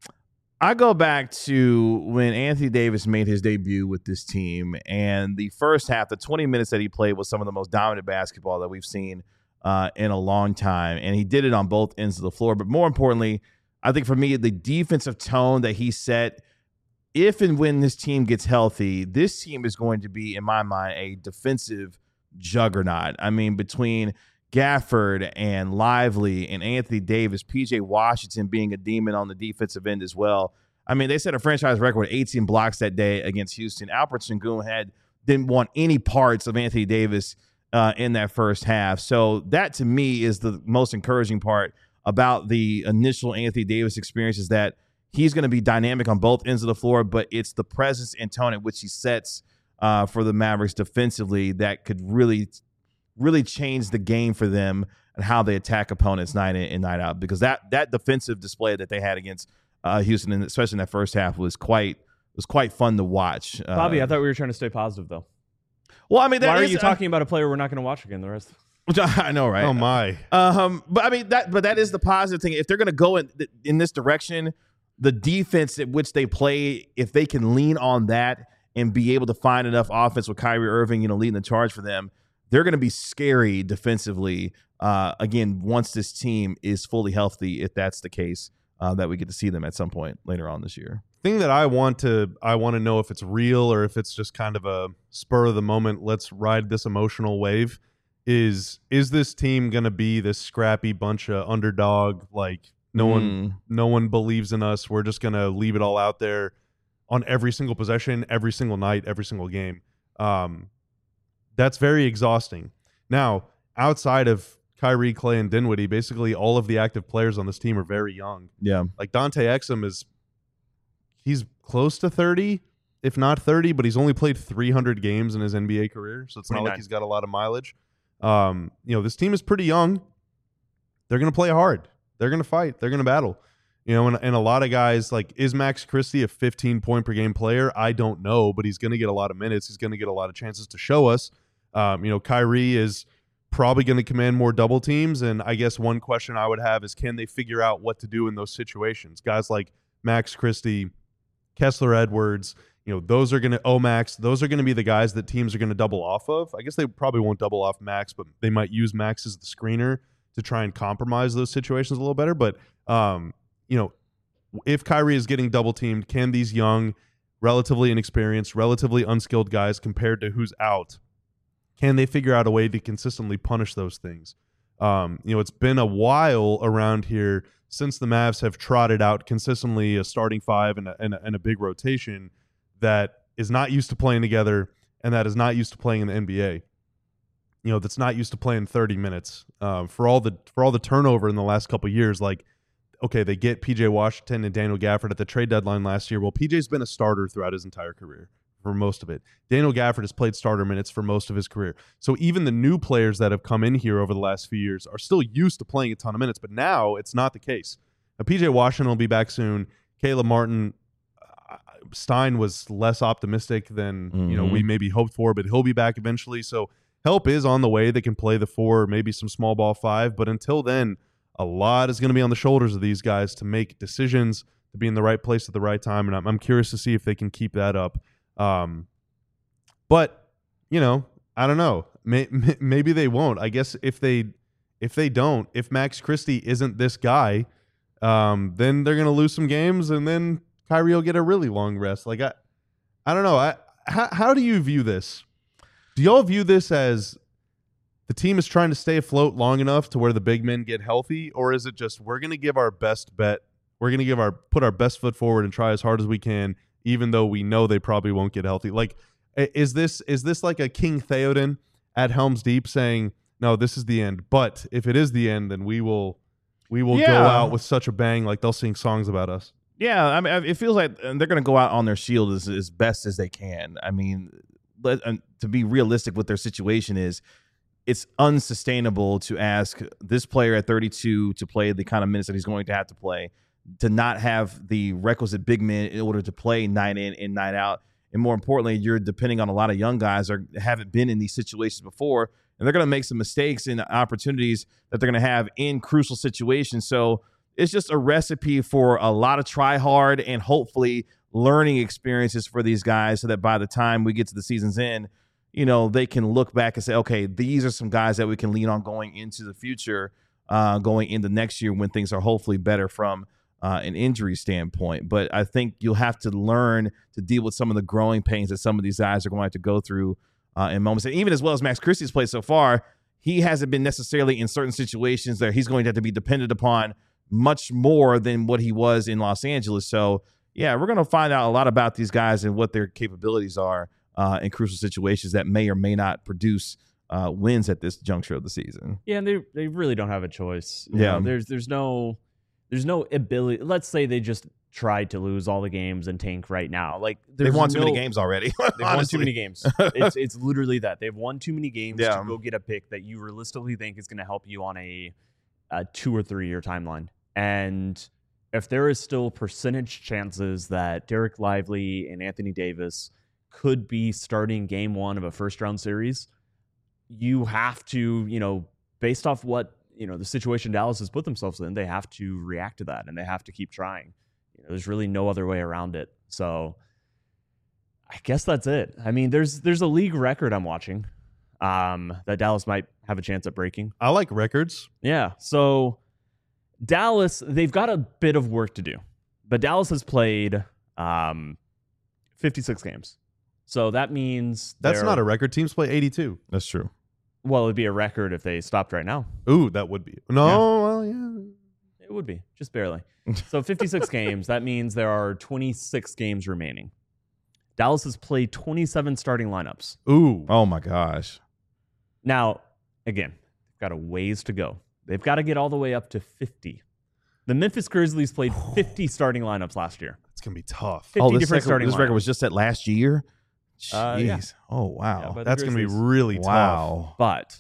[SPEAKER 3] I go back to when Anthony Davis made his debut with this team, and the first half, the 20 minutes that he played was some of the most dominant basketball that we've seen in a long time, and he did it on both ends of the floor. But more importantly, I think for me, the defensive tone that he set, if and when this team gets healthy, this team is going to be, in my mind, a defensive juggernaut. I mean, between Gafford and Lively and Anthony Davis, PJ Washington being a demon on the defensive end as well. I mean, they set a franchise record with 18 blocks that day against Houston. Alperen Sengun didn't want any parts of Anthony Davis in that first half. So that, to me, is the most encouraging part about the initial Anthony Davis experience, is that he's going to be dynamic on both ends of the floor, but it's the presence and tone at which he sets for the Mavericks defensively that could really change the game for them and how they attack opponents night in and night out. Because that defensive display that they had against Houston, and especially in that first half, was quite fun to watch.
[SPEAKER 2] Bobby, I thought we were trying to stay positive, though.
[SPEAKER 3] Well, I mean,
[SPEAKER 2] why are you talking about a player we're not going to watch again the rest?
[SPEAKER 3] Which I know, right?
[SPEAKER 1] Oh my.
[SPEAKER 3] But I mean that is the positive thing. If they're going to go in this direction, the defense at which they play, if they can lean on that and be able to find enough offense with Kyrie Irving, leading the charge for them, they're going to be scary defensively. Again, once this team is fully healthy, if that's the case, that we get to see them at some point later on this year.
[SPEAKER 1] Thing that I want to know if it's real or if it's just kind of a spur of the moment, let's ride this emotional wave, is this team going to be this scrappy bunch of underdog, like no one believes in us, we're just going to leave it all out there on every single possession, every single night, every single game? That's very exhausting. Now, outside of Kyrie, Clay, and Dinwiddie, basically all of the active players on this team are very young.
[SPEAKER 3] Yeah.
[SPEAKER 1] Like Dante Exum he's close to 30, if not 30, but he's only played 300 games in his NBA career, so it's
[SPEAKER 2] 29.
[SPEAKER 1] not like he's got a lot of mileage. This team is pretty young. They're going to play hard. They're going to fight. They're going to battle. And a lot of guys, like, is Max Christie a 15-point per game player? I don't know, but he's going to get a lot of minutes. He's going to get a lot of chances to show us. Kyrie is probably going to command more double teams, and I guess one question I would have is, can they figure out what to do in those situations? Guys like Max Christie, Kessler Edwards, those are going to Omax. Those are going to be the guys that teams are going to double off of. I guess they probably won't double off Max, but they might use Max as the screener to try and compromise those situations a little better. But, if Kyrie is getting double teamed, can these young, relatively inexperienced, relatively unskilled guys compared to who's out, can they figure out a way to consistently punish those things? It's been a while around here since the Mavs have trotted out consistently a starting five and a big rotation that is not used to playing together and that is not used to playing in the NBA. That's not used to playing 30 minutes. For all the turnover in the last couple of years, like, okay, they get PJ Washington and Daniel Gafford at the trade deadline last year. Well, PJ's been a starter throughout his entire career for most of it. Daniel Gafford has played starter minutes for most of his career. So even the new players that have come in here over the last few years are still used to playing a ton of minutes, but now it's not the case. Now, PJ Washington will be back soon. Caleb Martin, Stein was less optimistic than we maybe hoped for, but he'll be back eventually. So help is on the way. They can play the 4, maybe some small ball 5, but until then, a lot is going to be on the shoulders of these guys to make decisions, to be in the right place at the right time, and I'm curious to see if they can keep that up. But I don't know. Maybe they won't. I guess if they don't, if Max Christie isn't this guy, then they're going to lose some games, and then Kyrie will get a really long rest. Like I don't know. How do you view this? Do y'all view this as the team is trying to stay afloat long enough to where the big men get healthy, or is it just we're going to give our best bet? We're going to put our best foot forward and try as hard as we can, even though we know they probably won't get healthy. Like, is this like a King Theoden at Helm's Deep saying, no, this is the end, but if it is the end, then we will go out with such a bang, like they'll sing songs about us.
[SPEAKER 3] Yeah, I mean, it feels like they're going to go out on their shield as best as they can. I mean, to be realistic with their situation is, it's unsustainable to ask this player at 32 to play the kind of minutes that he's going to have to play, to not have the requisite big men in order to play night in and night out. And more importantly, you're depending on a lot of young guys that haven't been in these situations before, and they're going to make some mistakes and opportunities that they're going to have in crucial situations. So it's just a recipe for a lot of try hard and hopefully learning experiences for these guys, so that by the time we get to the season's end, they can look back and say, okay, these are some guys that we can lean on going into the future, going into next year when things are hopefully better from an injury standpoint. But I think you'll have to learn to deal with some of the growing pains that some of these guys are going to have to go through in moments. And even as well as Max Christie's played so far, he hasn't been necessarily in certain situations that he's going to have to be dependent upon much more than what he was in Los Angeles. So, yeah, we're going to find out a lot about these guys and what their capabilities are in crucial situations that may or may not produce wins at this juncture of the season.
[SPEAKER 2] Yeah, and they really don't have a choice.
[SPEAKER 3] Yeah.
[SPEAKER 2] There's no ability. Let's say they just tried to lose all the games and tank right now. Like
[SPEAKER 3] They've won too many games already.
[SPEAKER 2] They've won too many games. It's literally that. They've won too many games
[SPEAKER 3] Yeah.
[SPEAKER 2] to go get a pick that you realistically think is going to help you on a 2 or 3 year timeline. And if there is still percentage chances that Derek Lively and Anthony Davis could be starting game 1 of a first round series, you have to, based off what, the situation Dallas has put themselves in, they have to react to that and they have to keep trying. There's really no other way around it. So I guess that's it. I mean, there's a league record I'm watching that Dallas might have a chance at breaking.
[SPEAKER 1] I like records.
[SPEAKER 2] Yeah. So Dallas, they've got a bit of work to do, but Dallas has played 56 games. So that means
[SPEAKER 1] That's not a record. Teams play 82.
[SPEAKER 3] That's true.
[SPEAKER 2] Well, it'd be a record if they stopped right now.
[SPEAKER 1] Ooh, that would be. No,
[SPEAKER 2] Yeah.
[SPEAKER 1] well, yeah.
[SPEAKER 2] It would be, just barely. So 56 games, that means there are 26 games remaining. Dallas has played 27 starting lineups.
[SPEAKER 1] Ooh.
[SPEAKER 3] Oh, my gosh.
[SPEAKER 2] Now, again, they've got a ways to go. They've got to get all the way up to 50. The Memphis Grizzlies played 50 starting lineups last year.
[SPEAKER 1] It's going to be tough.
[SPEAKER 2] 50 different starting
[SPEAKER 3] This record
[SPEAKER 2] lineups.
[SPEAKER 3] was just set last year? Jeez.
[SPEAKER 2] Yeah.
[SPEAKER 3] Oh, wow.
[SPEAKER 2] Yeah, but-
[SPEAKER 1] That's going to be
[SPEAKER 2] Grizzlies.
[SPEAKER 1] really tough.
[SPEAKER 3] Wow.
[SPEAKER 2] But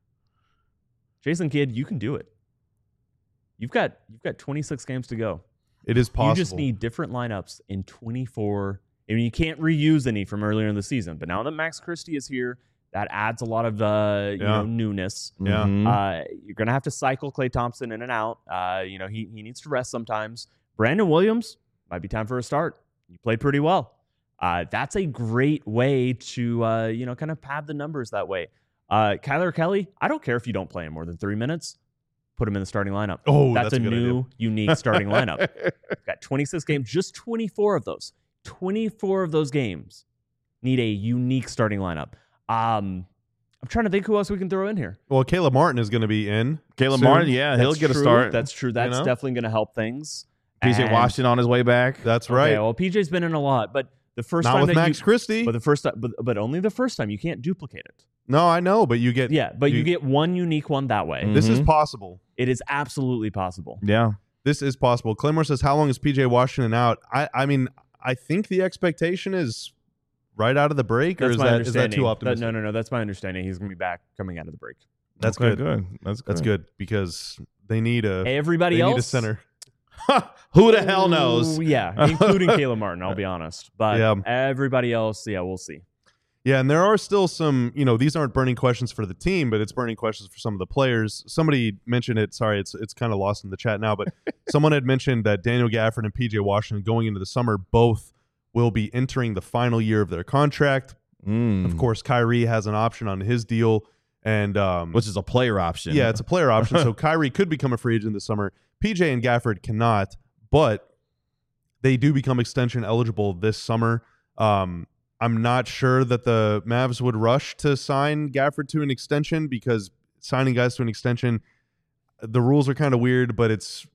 [SPEAKER 2] Jason Kidd, you can do it. You've got 26 games to go.
[SPEAKER 1] It is possible.
[SPEAKER 2] You just need different lineups in 24. I mean, you can't reuse any from earlier in the season, but now that Max Christie is here, that adds a lot of newness.
[SPEAKER 1] Yeah.
[SPEAKER 3] Mhm.
[SPEAKER 2] You're gonna have to cycle Klay Thompson in and out. He needs to rest sometimes. Brandon Williams might be time for a start. You played pretty well. That's a great way to kind of pad the numbers that way. Kyler Kelly, I don't care if you don't play him more than 3 minutes. Put him in the starting lineup.
[SPEAKER 1] Oh,
[SPEAKER 2] that's
[SPEAKER 1] that's
[SPEAKER 2] a
[SPEAKER 1] a good
[SPEAKER 2] new,
[SPEAKER 1] idea.
[SPEAKER 2] unique starting lineup. Got 26 games, just 24 of those. 24 of those games need a unique starting lineup. I'm trying to think who else we can throw in here.
[SPEAKER 1] Well, Caleb Martin is going to be in.
[SPEAKER 3] Caleb
[SPEAKER 1] soon.
[SPEAKER 3] Martin, yeah, he'll
[SPEAKER 2] That's
[SPEAKER 3] get a
[SPEAKER 2] true.
[SPEAKER 3] start.
[SPEAKER 2] That's true. That's
[SPEAKER 1] know?
[SPEAKER 2] definitely going to help things.
[SPEAKER 3] PJ
[SPEAKER 2] And-
[SPEAKER 3] Washington on his way back.
[SPEAKER 1] That's right.
[SPEAKER 2] Okay, well, PJ's been in a lot, but the first
[SPEAKER 1] Not
[SPEAKER 2] time
[SPEAKER 1] with
[SPEAKER 2] that
[SPEAKER 1] Max Christie.
[SPEAKER 2] but the first time, but only the first time. You can't duplicate it.
[SPEAKER 1] No, I know, but you get.
[SPEAKER 2] Yeah, but you get one unique one that way.
[SPEAKER 3] Mm.
[SPEAKER 1] This is
[SPEAKER 3] Mhm.
[SPEAKER 1] possible.
[SPEAKER 2] It is absolutely possible.
[SPEAKER 3] Yeah.
[SPEAKER 1] This is possible. Claymore says, "How long is PJ Washington out?" I mean, I think the expectation is right out of the break, or
[SPEAKER 2] That's
[SPEAKER 1] is
[SPEAKER 2] my
[SPEAKER 1] that
[SPEAKER 2] understanding.
[SPEAKER 1] too optimistic?
[SPEAKER 2] No. That's my understanding. He's going to be back coming out of the break.
[SPEAKER 1] That's
[SPEAKER 3] Okay,
[SPEAKER 1] good.
[SPEAKER 3] That's good.
[SPEAKER 1] That's good because they need a
[SPEAKER 2] Everybody
[SPEAKER 1] they
[SPEAKER 2] else,
[SPEAKER 1] need a center.
[SPEAKER 3] Who the hell knows?
[SPEAKER 2] Ooh, yeah, including Caleb Martin. I'll be honest, but
[SPEAKER 1] Yeah.
[SPEAKER 2] everybody else, yeah, we'll see.
[SPEAKER 1] Yeah, and there are still some, these aren't burning questions for the team, but it's burning questions for some of the players. Somebody mentioned it. Sorry, it's kind of lost in the chat now, but someone had mentioned that Daniel Gafford and PJ Washington going into the summer both will be entering the final year of their contract.
[SPEAKER 3] Mm.
[SPEAKER 1] Of course, Kyrie has an option on his deal, and
[SPEAKER 3] Which is a player option.
[SPEAKER 1] yeah, it's a player option. So Kyrie could become a free agent this summer. PJ and Gafford cannot, but they do become extension eligible this summer. I'm not sure that the Mavs would rush to sign Gafford to an extension because signing guys to an extension, the rules are kind of weird, but it's,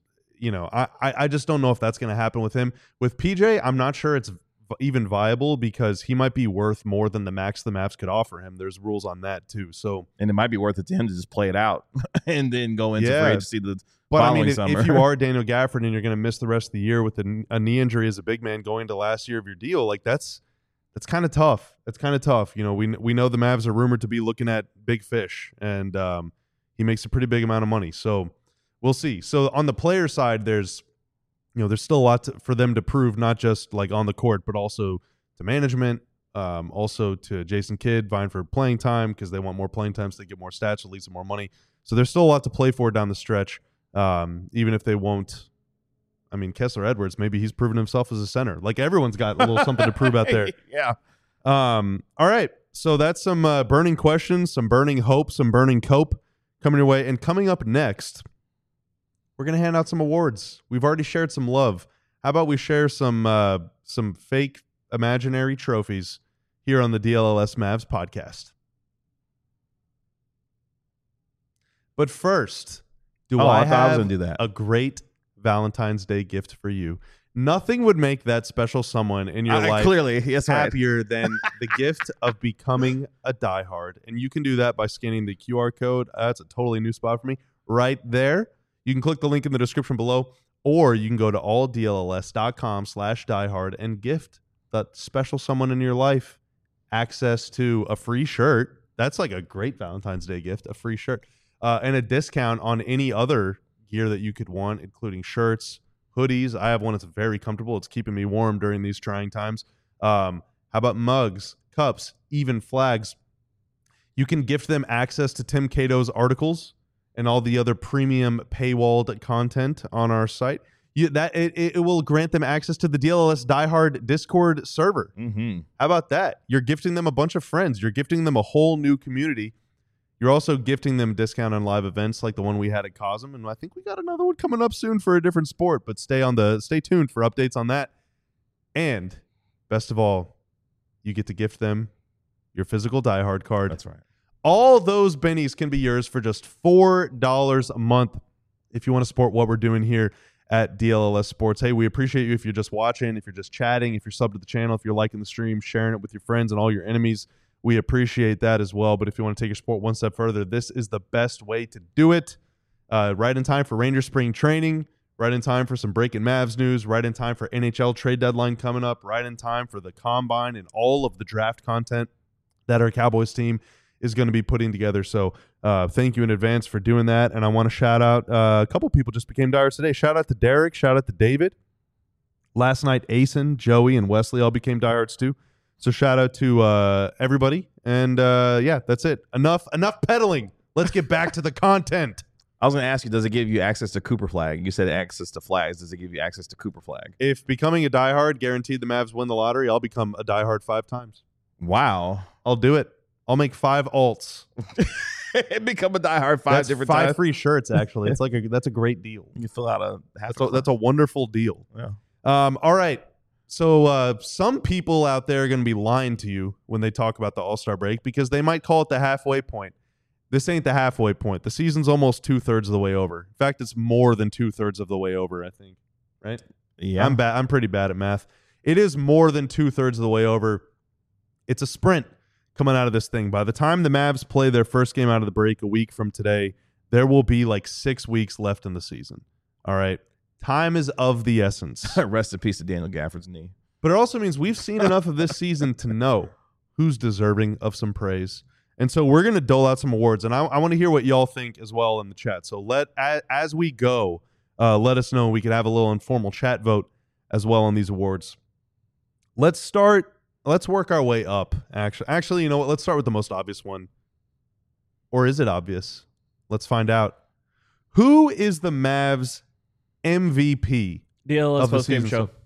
[SPEAKER 1] I just don't know if that's going to happen with him. With PJ, I'm not sure it's even viable because he might be worth more than the max the Mavs could offer him. There's rules on that too. So,
[SPEAKER 3] and it might be worth it to him to just play it out and then go into
[SPEAKER 1] Yeah.
[SPEAKER 3] free agency the
[SPEAKER 1] but I
[SPEAKER 3] following
[SPEAKER 1] mean,
[SPEAKER 3] summer.
[SPEAKER 1] if you are Daniel Gafford and you're going to miss the rest of the year with a knee injury as a big man going to last year of your deal, like that's kind of tough. It's kind of tough. We know the Mavs are rumored to be looking at big fish, and he makes a pretty big amount of money. So we'll see. So on the player side, there's still a lot for them to prove, not just like on the court, but also to management, also to Jason Kidd vying for playing time because they want more playing time so they get more stats, at least more money. So there's still a lot to play for down the stretch, even if they won't. I mean, Kessler Edwards, maybe he's proven himself as a center. Like everyone's got a little something to prove out there.
[SPEAKER 3] Yeah.
[SPEAKER 1] All right. So that's some burning questions, some burning hope, some burning cope coming your way. And coming up next, we're going to hand out some awards. We've already shared some love. How about we share some fake imaginary trophies here on the DLLS Mavs podcast. But first, I
[SPEAKER 3] thought I was
[SPEAKER 1] have
[SPEAKER 3] gonna do that.
[SPEAKER 1] a great Valentine's Day gift for you. Nothing would make that special someone in your life
[SPEAKER 3] Clearly, yes, right.
[SPEAKER 1] happier than the gift of becoming a diehard. And you can do that by scanning the QR code. That's a totally new spot for me. Right there. You can click the link in the description below, or you can go to alldlls.com/diehard and gift that special someone in your life access to a free shirt. That's like a great Valentine's Day gift, a free shirt, and a discount on any other gear that you could want, including shirts, hoodies. I have one that's very comfortable. It's keeping me warm during these trying times. How about mugs, cups, even flags? You can gift them access to Tim Cato's articles and all the other premium paywalled content on our site. It will grant them access to the DLLS Diehard Discord server.
[SPEAKER 3] Mm-hmm.
[SPEAKER 1] How about that? You're gifting them a bunch of friends. You're gifting them a whole new community. You're also gifting them a discount on live events like the one we had at Cosm, and I think we got another one coming up soon for a different sport. But stay tuned for updates on that. And best of all, you get to gift them your physical diehard card.
[SPEAKER 3] That's right.
[SPEAKER 1] All those bennies can be yours for just $4 a month if you want to support what we're doing here at DLLS Sports. Hey, we appreciate you if you're just watching, if you're just chatting, if you're subbed to the channel, if you're liking the stream, sharing it with your friends and all your enemies. We appreciate that as well. But if you want to take your sport one step further, this is the best way to do it. Right in time for Ranger spring training, right in time for some Breaking Mavs news, right in time for NHL trade deadline coming up, right in time for the Combine and all of the draft content that our Cowboys team is going to be putting together. So thank you in advance for doing that. And I want to shout out a couple people just became diehards today. Shout out to Derek. Shout out to David. Last night, Asen, Joey, and Wesley all became diehards too. So shout out to everybody. And yeah, that's it. Enough peddling. Let's get back to the content.
[SPEAKER 3] I was going to ask you, does it give you access to Cooper Flag? You said access to flags. Does it give you access to Cooper Flag?
[SPEAKER 1] If becoming a diehard guaranteed the Mavs win the lottery, I'll become a diehard 5 times.
[SPEAKER 3] Wow.
[SPEAKER 1] I'll do it. I'll make 5 alts.
[SPEAKER 3] Become a diehard 5
[SPEAKER 1] That's
[SPEAKER 3] different
[SPEAKER 1] 5
[SPEAKER 3] times.
[SPEAKER 1] free shirts, actually. It's like that's a great deal.
[SPEAKER 3] You fill out a half.
[SPEAKER 1] That's a wonderful deal.
[SPEAKER 3] Yeah.
[SPEAKER 1] All right. So some people out there are going to be lying to you when they talk about the All-Star break because they might call it the halfway point. This ain't the halfway point. The season's almost 2/3 of the way over. In fact, it's more than 2/3 of the way over, I think. Right?
[SPEAKER 3] Yeah.
[SPEAKER 1] I'm pretty bad at math. It is more than 2/3 of the way over. It's a sprint coming out of this thing. By the time the Mavs play their first game out of the break a week from today, there will be like 6 weeks left in the season. All right. Time is of the essence.
[SPEAKER 3] Rest in peace to Daniel Gafford's knee.
[SPEAKER 1] But it also means we've seen enough of this season to know who's deserving of some praise. And so we're going to dole out some awards. And I want to hear what y'all think as well in the chat. So as we go, let us know. We could have a little informal chat vote as well on these awards. Let's work our way up, actually. You know what? Let's start with the most obvious one. Or is it obvious? Let's find out. Who is the Mavs MVP
[SPEAKER 2] DLLS
[SPEAKER 1] of the
[SPEAKER 2] post-game
[SPEAKER 1] season?
[SPEAKER 2] show.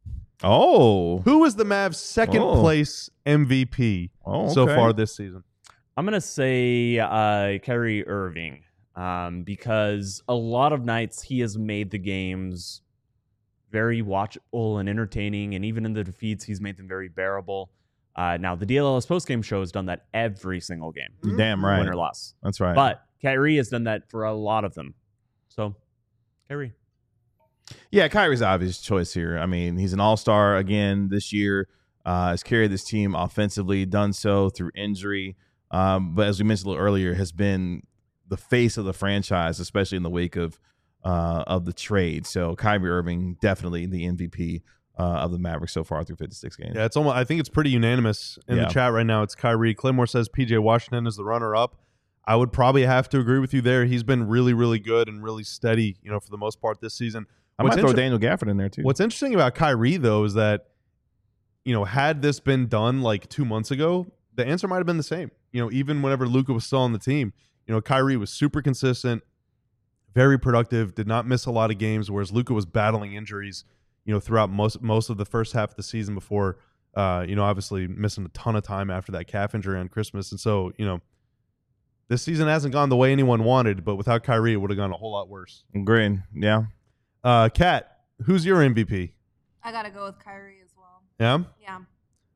[SPEAKER 3] Oh.
[SPEAKER 1] Who is the Mavs' second place MVP so far this season?
[SPEAKER 2] I'm going to say Kyrie Irving because a lot of nights he has made the games very watchable and entertaining, and even in the defeats, he's made them very bearable. Now, the DLLS postgame show has done that every single game.
[SPEAKER 3] You're damn right.
[SPEAKER 2] Win or loss.
[SPEAKER 3] That's right.
[SPEAKER 2] But Kyrie has done that for a lot of them. So, Kyrie.
[SPEAKER 3] Yeah, Kyrie's the obvious choice here. I mean, he's an all-star again this year. Has carried this team offensively, done so through injury. But as we mentioned a little earlier, has been the face of the franchise, especially in the wake of the trade. So Kyrie Irving, definitely the MVP of the Mavericks so far through 56 games.
[SPEAKER 1] Yeah, I think it's pretty unanimous in the chat right now. It's Kyrie. Claymore says PJ Washington is the runner-up. I would probably have to agree with you there. He's been really, really good and really steady, for the most part this season.
[SPEAKER 3] I might throw Daniel Gafford in there too.
[SPEAKER 1] What's interesting about Kyrie, though, is that, had this been done like 2 months ago, the answer might have been the same. Even whenever Luka was still on the team, Kyrie was super consistent, very productive, did not miss a lot of games, whereas Luka was battling injuries, throughout most of the first half of the season before, obviously missing a ton of time after that calf injury on Christmas. And so, this season hasn't gone the way anyone wanted, but without Kyrie, it would have gone a whole lot worse.
[SPEAKER 3] Agreed. Yeah.
[SPEAKER 1] Kat, who's your MVP?
[SPEAKER 4] I gotta go with Kyrie as well.
[SPEAKER 1] Yeah?
[SPEAKER 4] Yeah.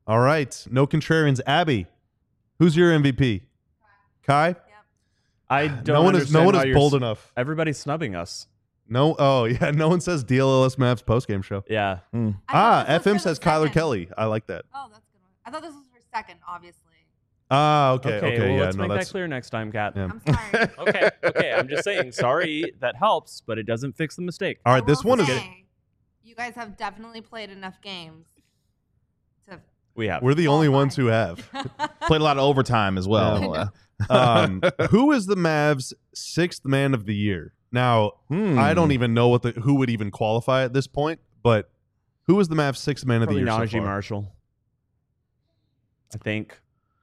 [SPEAKER 1] All right. No contrarians. Abby, who's your MVP? Kai?
[SPEAKER 2] I don't
[SPEAKER 1] No one
[SPEAKER 2] understand
[SPEAKER 1] is
[SPEAKER 2] how you're
[SPEAKER 1] bold enough.
[SPEAKER 2] Everybody's snubbing us.
[SPEAKER 1] No. Oh, yeah. No one says DLLS Mavs postgame show.
[SPEAKER 2] Yeah.
[SPEAKER 4] I thought this was
[SPEAKER 1] FM
[SPEAKER 4] for
[SPEAKER 1] says
[SPEAKER 4] the
[SPEAKER 1] Kyler
[SPEAKER 4] second.
[SPEAKER 1] Kelly. I like that.
[SPEAKER 4] Oh, that's a good one. I thought this was for second, obviously.
[SPEAKER 1] Okay.
[SPEAKER 2] Well,
[SPEAKER 1] Yeah.
[SPEAKER 2] let's
[SPEAKER 1] No,
[SPEAKER 2] make that
[SPEAKER 1] that's
[SPEAKER 2] clear next time, Kat.
[SPEAKER 1] Yeah.
[SPEAKER 4] I'm sorry.
[SPEAKER 2] Okay. I'm just saying. Sorry, that helps, but it doesn't fix the mistake.
[SPEAKER 1] all right.
[SPEAKER 4] I
[SPEAKER 1] This
[SPEAKER 4] will
[SPEAKER 1] one is.
[SPEAKER 4] say, you guys have definitely played enough games to.
[SPEAKER 2] We have.
[SPEAKER 1] We're the only
[SPEAKER 4] Oh,
[SPEAKER 1] ones
[SPEAKER 4] my.
[SPEAKER 1] who have.
[SPEAKER 3] Played a lot of overtime as well.
[SPEAKER 1] Who is the Mavs' sixth man of the year? Now, I don't even know who would even qualify at this point, but who is the Mavs' sixth man of the
[SPEAKER 2] Probably
[SPEAKER 1] year so
[SPEAKER 2] Najee
[SPEAKER 1] far?
[SPEAKER 2] Marshall. I think.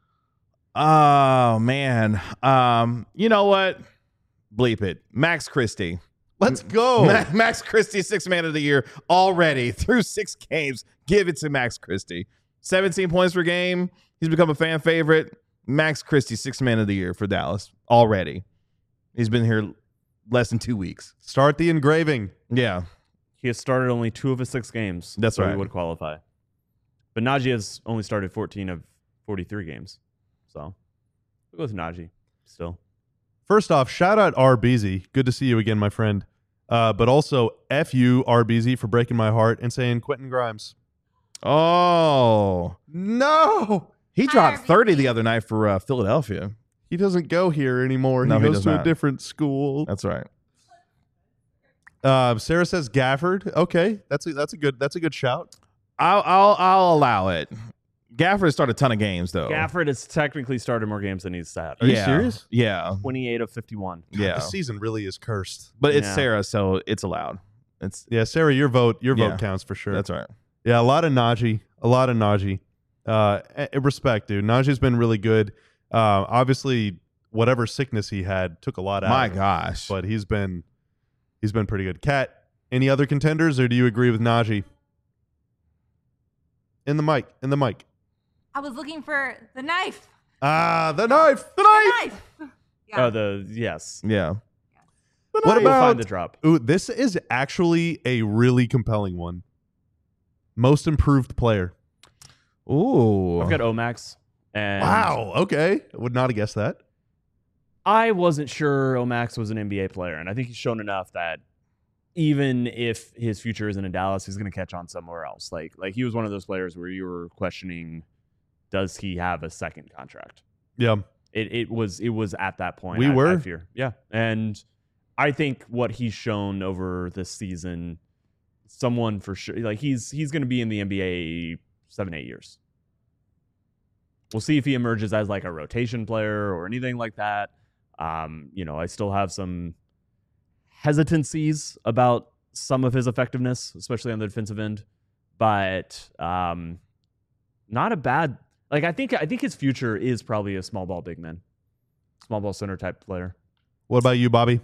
[SPEAKER 3] Oh man. You know what? Bleep it. Max Christie.
[SPEAKER 1] Let's go.
[SPEAKER 3] Max Christie, sixth man of the year already through 6 games. Give it to Max Christie. 17 points per game. He's become a fan favorite. Max Christie, sixth man of the year for Dallas already. He's been here less than 2 weeks.
[SPEAKER 1] Start the engraving.
[SPEAKER 3] Yeah.
[SPEAKER 2] He has started only 2 of his 6 games.
[SPEAKER 3] That's
[SPEAKER 2] so
[SPEAKER 3] right.
[SPEAKER 2] He would qualify. But Najee has only started 14 of 43 games. So we'll go with Najee still.
[SPEAKER 1] First off, shout out RBZ. Good to see you again, my friend. But also, F you, RBZ, for breaking my heart and saying Quentin Grimes.
[SPEAKER 3] Oh.
[SPEAKER 1] No.
[SPEAKER 3] He
[SPEAKER 4] Hi,
[SPEAKER 3] dropped 30
[SPEAKER 4] RBG.
[SPEAKER 3] the other night for Philadelphia.
[SPEAKER 1] He doesn't go here anymore.
[SPEAKER 3] No,
[SPEAKER 1] he
[SPEAKER 3] he
[SPEAKER 1] goes
[SPEAKER 3] does
[SPEAKER 1] to a
[SPEAKER 3] not.
[SPEAKER 1] different school.
[SPEAKER 3] That's right.
[SPEAKER 1] Sarah says Gafford. Okay, that's a good shout.
[SPEAKER 3] I'll allow it. Gafford started a ton of games though.
[SPEAKER 2] Gafford has technically started more games than he's sat.
[SPEAKER 1] Are you serious?
[SPEAKER 3] Yeah.
[SPEAKER 2] 28 of 51.
[SPEAKER 3] Yeah.
[SPEAKER 1] This season really is cursed.
[SPEAKER 3] But it's
[SPEAKER 2] Yeah.
[SPEAKER 3] Sarah, so it's allowed. It's
[SPEAKER 1] Yeah, Sarah, your vote
[SPEAKER 3] Yeah.
[SPEAKER 1] counts for sure.
[SPEAKER 3] That's right.
[SPEAKER 1] Yeah, a lot of Najee. Respect, dude. Najee's been really good. Obviously, whatever sickness he had took a lot out.
[SPEAKER 3] My
[SPEAKER 1] of him,
[SPEAKER 3] gosh.
[SPEAKER 1] but he's been pretty good. Kat, any other contenders, or do you agree with Najee? In the mic.
[SPEAKER 4] I was looking for the knife.
[SPEAKER 1] The knife.
[SPEAKER 4] The knife. Yeah.
[SPEAKER 2] Oh, yes.
[SPEAKER 3] Yeah.
[SPEAKER 1] What
[SPEAKER 2] We'll
[SPEAKER 1] about
[SPEAKER 2] find the drop?
[SPEAKER 1] Ooh, this is actually a really compelling one. Most improved player.
[SPEAKER 3] Ooh.
[SPEAKER 2] I've got Omax. And
[SPEAKER 1] Wow. Okay. I would not have guessed that.
[SPEAKER 2] I wasn't sure Omax was an NBA player, and I think he's shown enough that even if his future isn't in Dallas, he's going to catch on somewhere else. Like he was one of those players where you were questioning, does he have a second contract?
[SPEAKER 1] Yeah.
[SPEAKER 2] It was at that point.
[SPEAKER 1] We were.
[SPEAKER 2] I fear. Yeah. And I think what he's shown over this season, someone for sure, like he's going to be in the NBA 7-8 years. We'll see if he emerges as like a rotation player or anything like that. I still have some hesitancies about some of his effectiveness, especially on the defensive end, but not a bad. Like I think his future is probably a small ball big man, small ball center type player.
[SPEAKER 1] What about you, Bobby?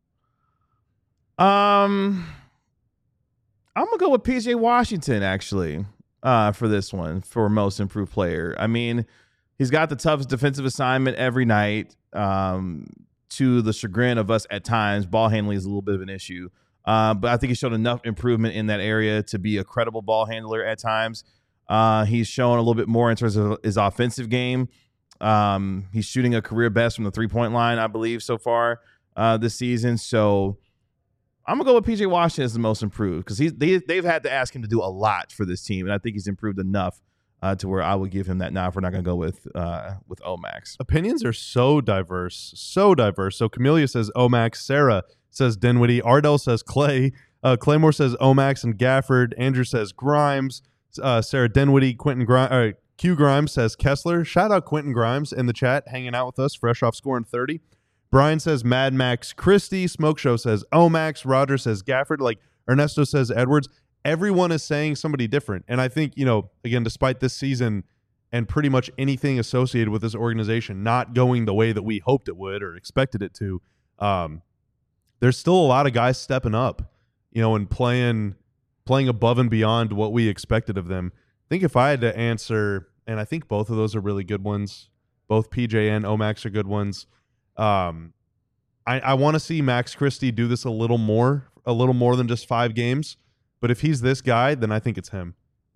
[SPEAKER 3] I'm gonna go with PJ Washington actually for this one for most improved player. I mean, he's got the toughest defensive assignment every night. To the chagrin of us at times, ball handling is a little bit of an issue. But I think he showed enough improvement in that area to be a credible ball handler at times. He's shown a little bit more in terms of his offensive game. He's shooting a career best from the 3-point line, I believe, so far this season. So I'm going to go with PJ Washington as the most improved because they've had to ask him to do a lot for this team, and I think he's improved enough to where I would give him that. Now, if we're not going to go with Omax.
[SPEAKER 1] Opinions are so diverse. So Camellia says Omax. Sarah says Dinwiddie. Ardell says Clay. Claymore says Omax and Gafford. Andrew says Grimes. Sarah Dinwiddie. Q Grimes says Kessler. Shout out Quentin Grimes in the chat, hanging out with us, fresh off scoring 30. Brian says Mad Max Christie. Smoke Show says Omax. Roger says Gafford. Like Ernesto says Edwards. Everyone is saying somebody different. And I think, again, despite this season and pretty much anything associated with this organization not going the way that we hoped it would or expected it to, there's still a lot of guys stepping up, and playing above and beyond what we expected of them. I think if I had to answer, and I think both of those are really good ones, both PJ and Omax are good ones. I want to see Max Christie do this a little more than just 5 games. But if he's this guy, then I think it's him.
[SPEAKER 2] I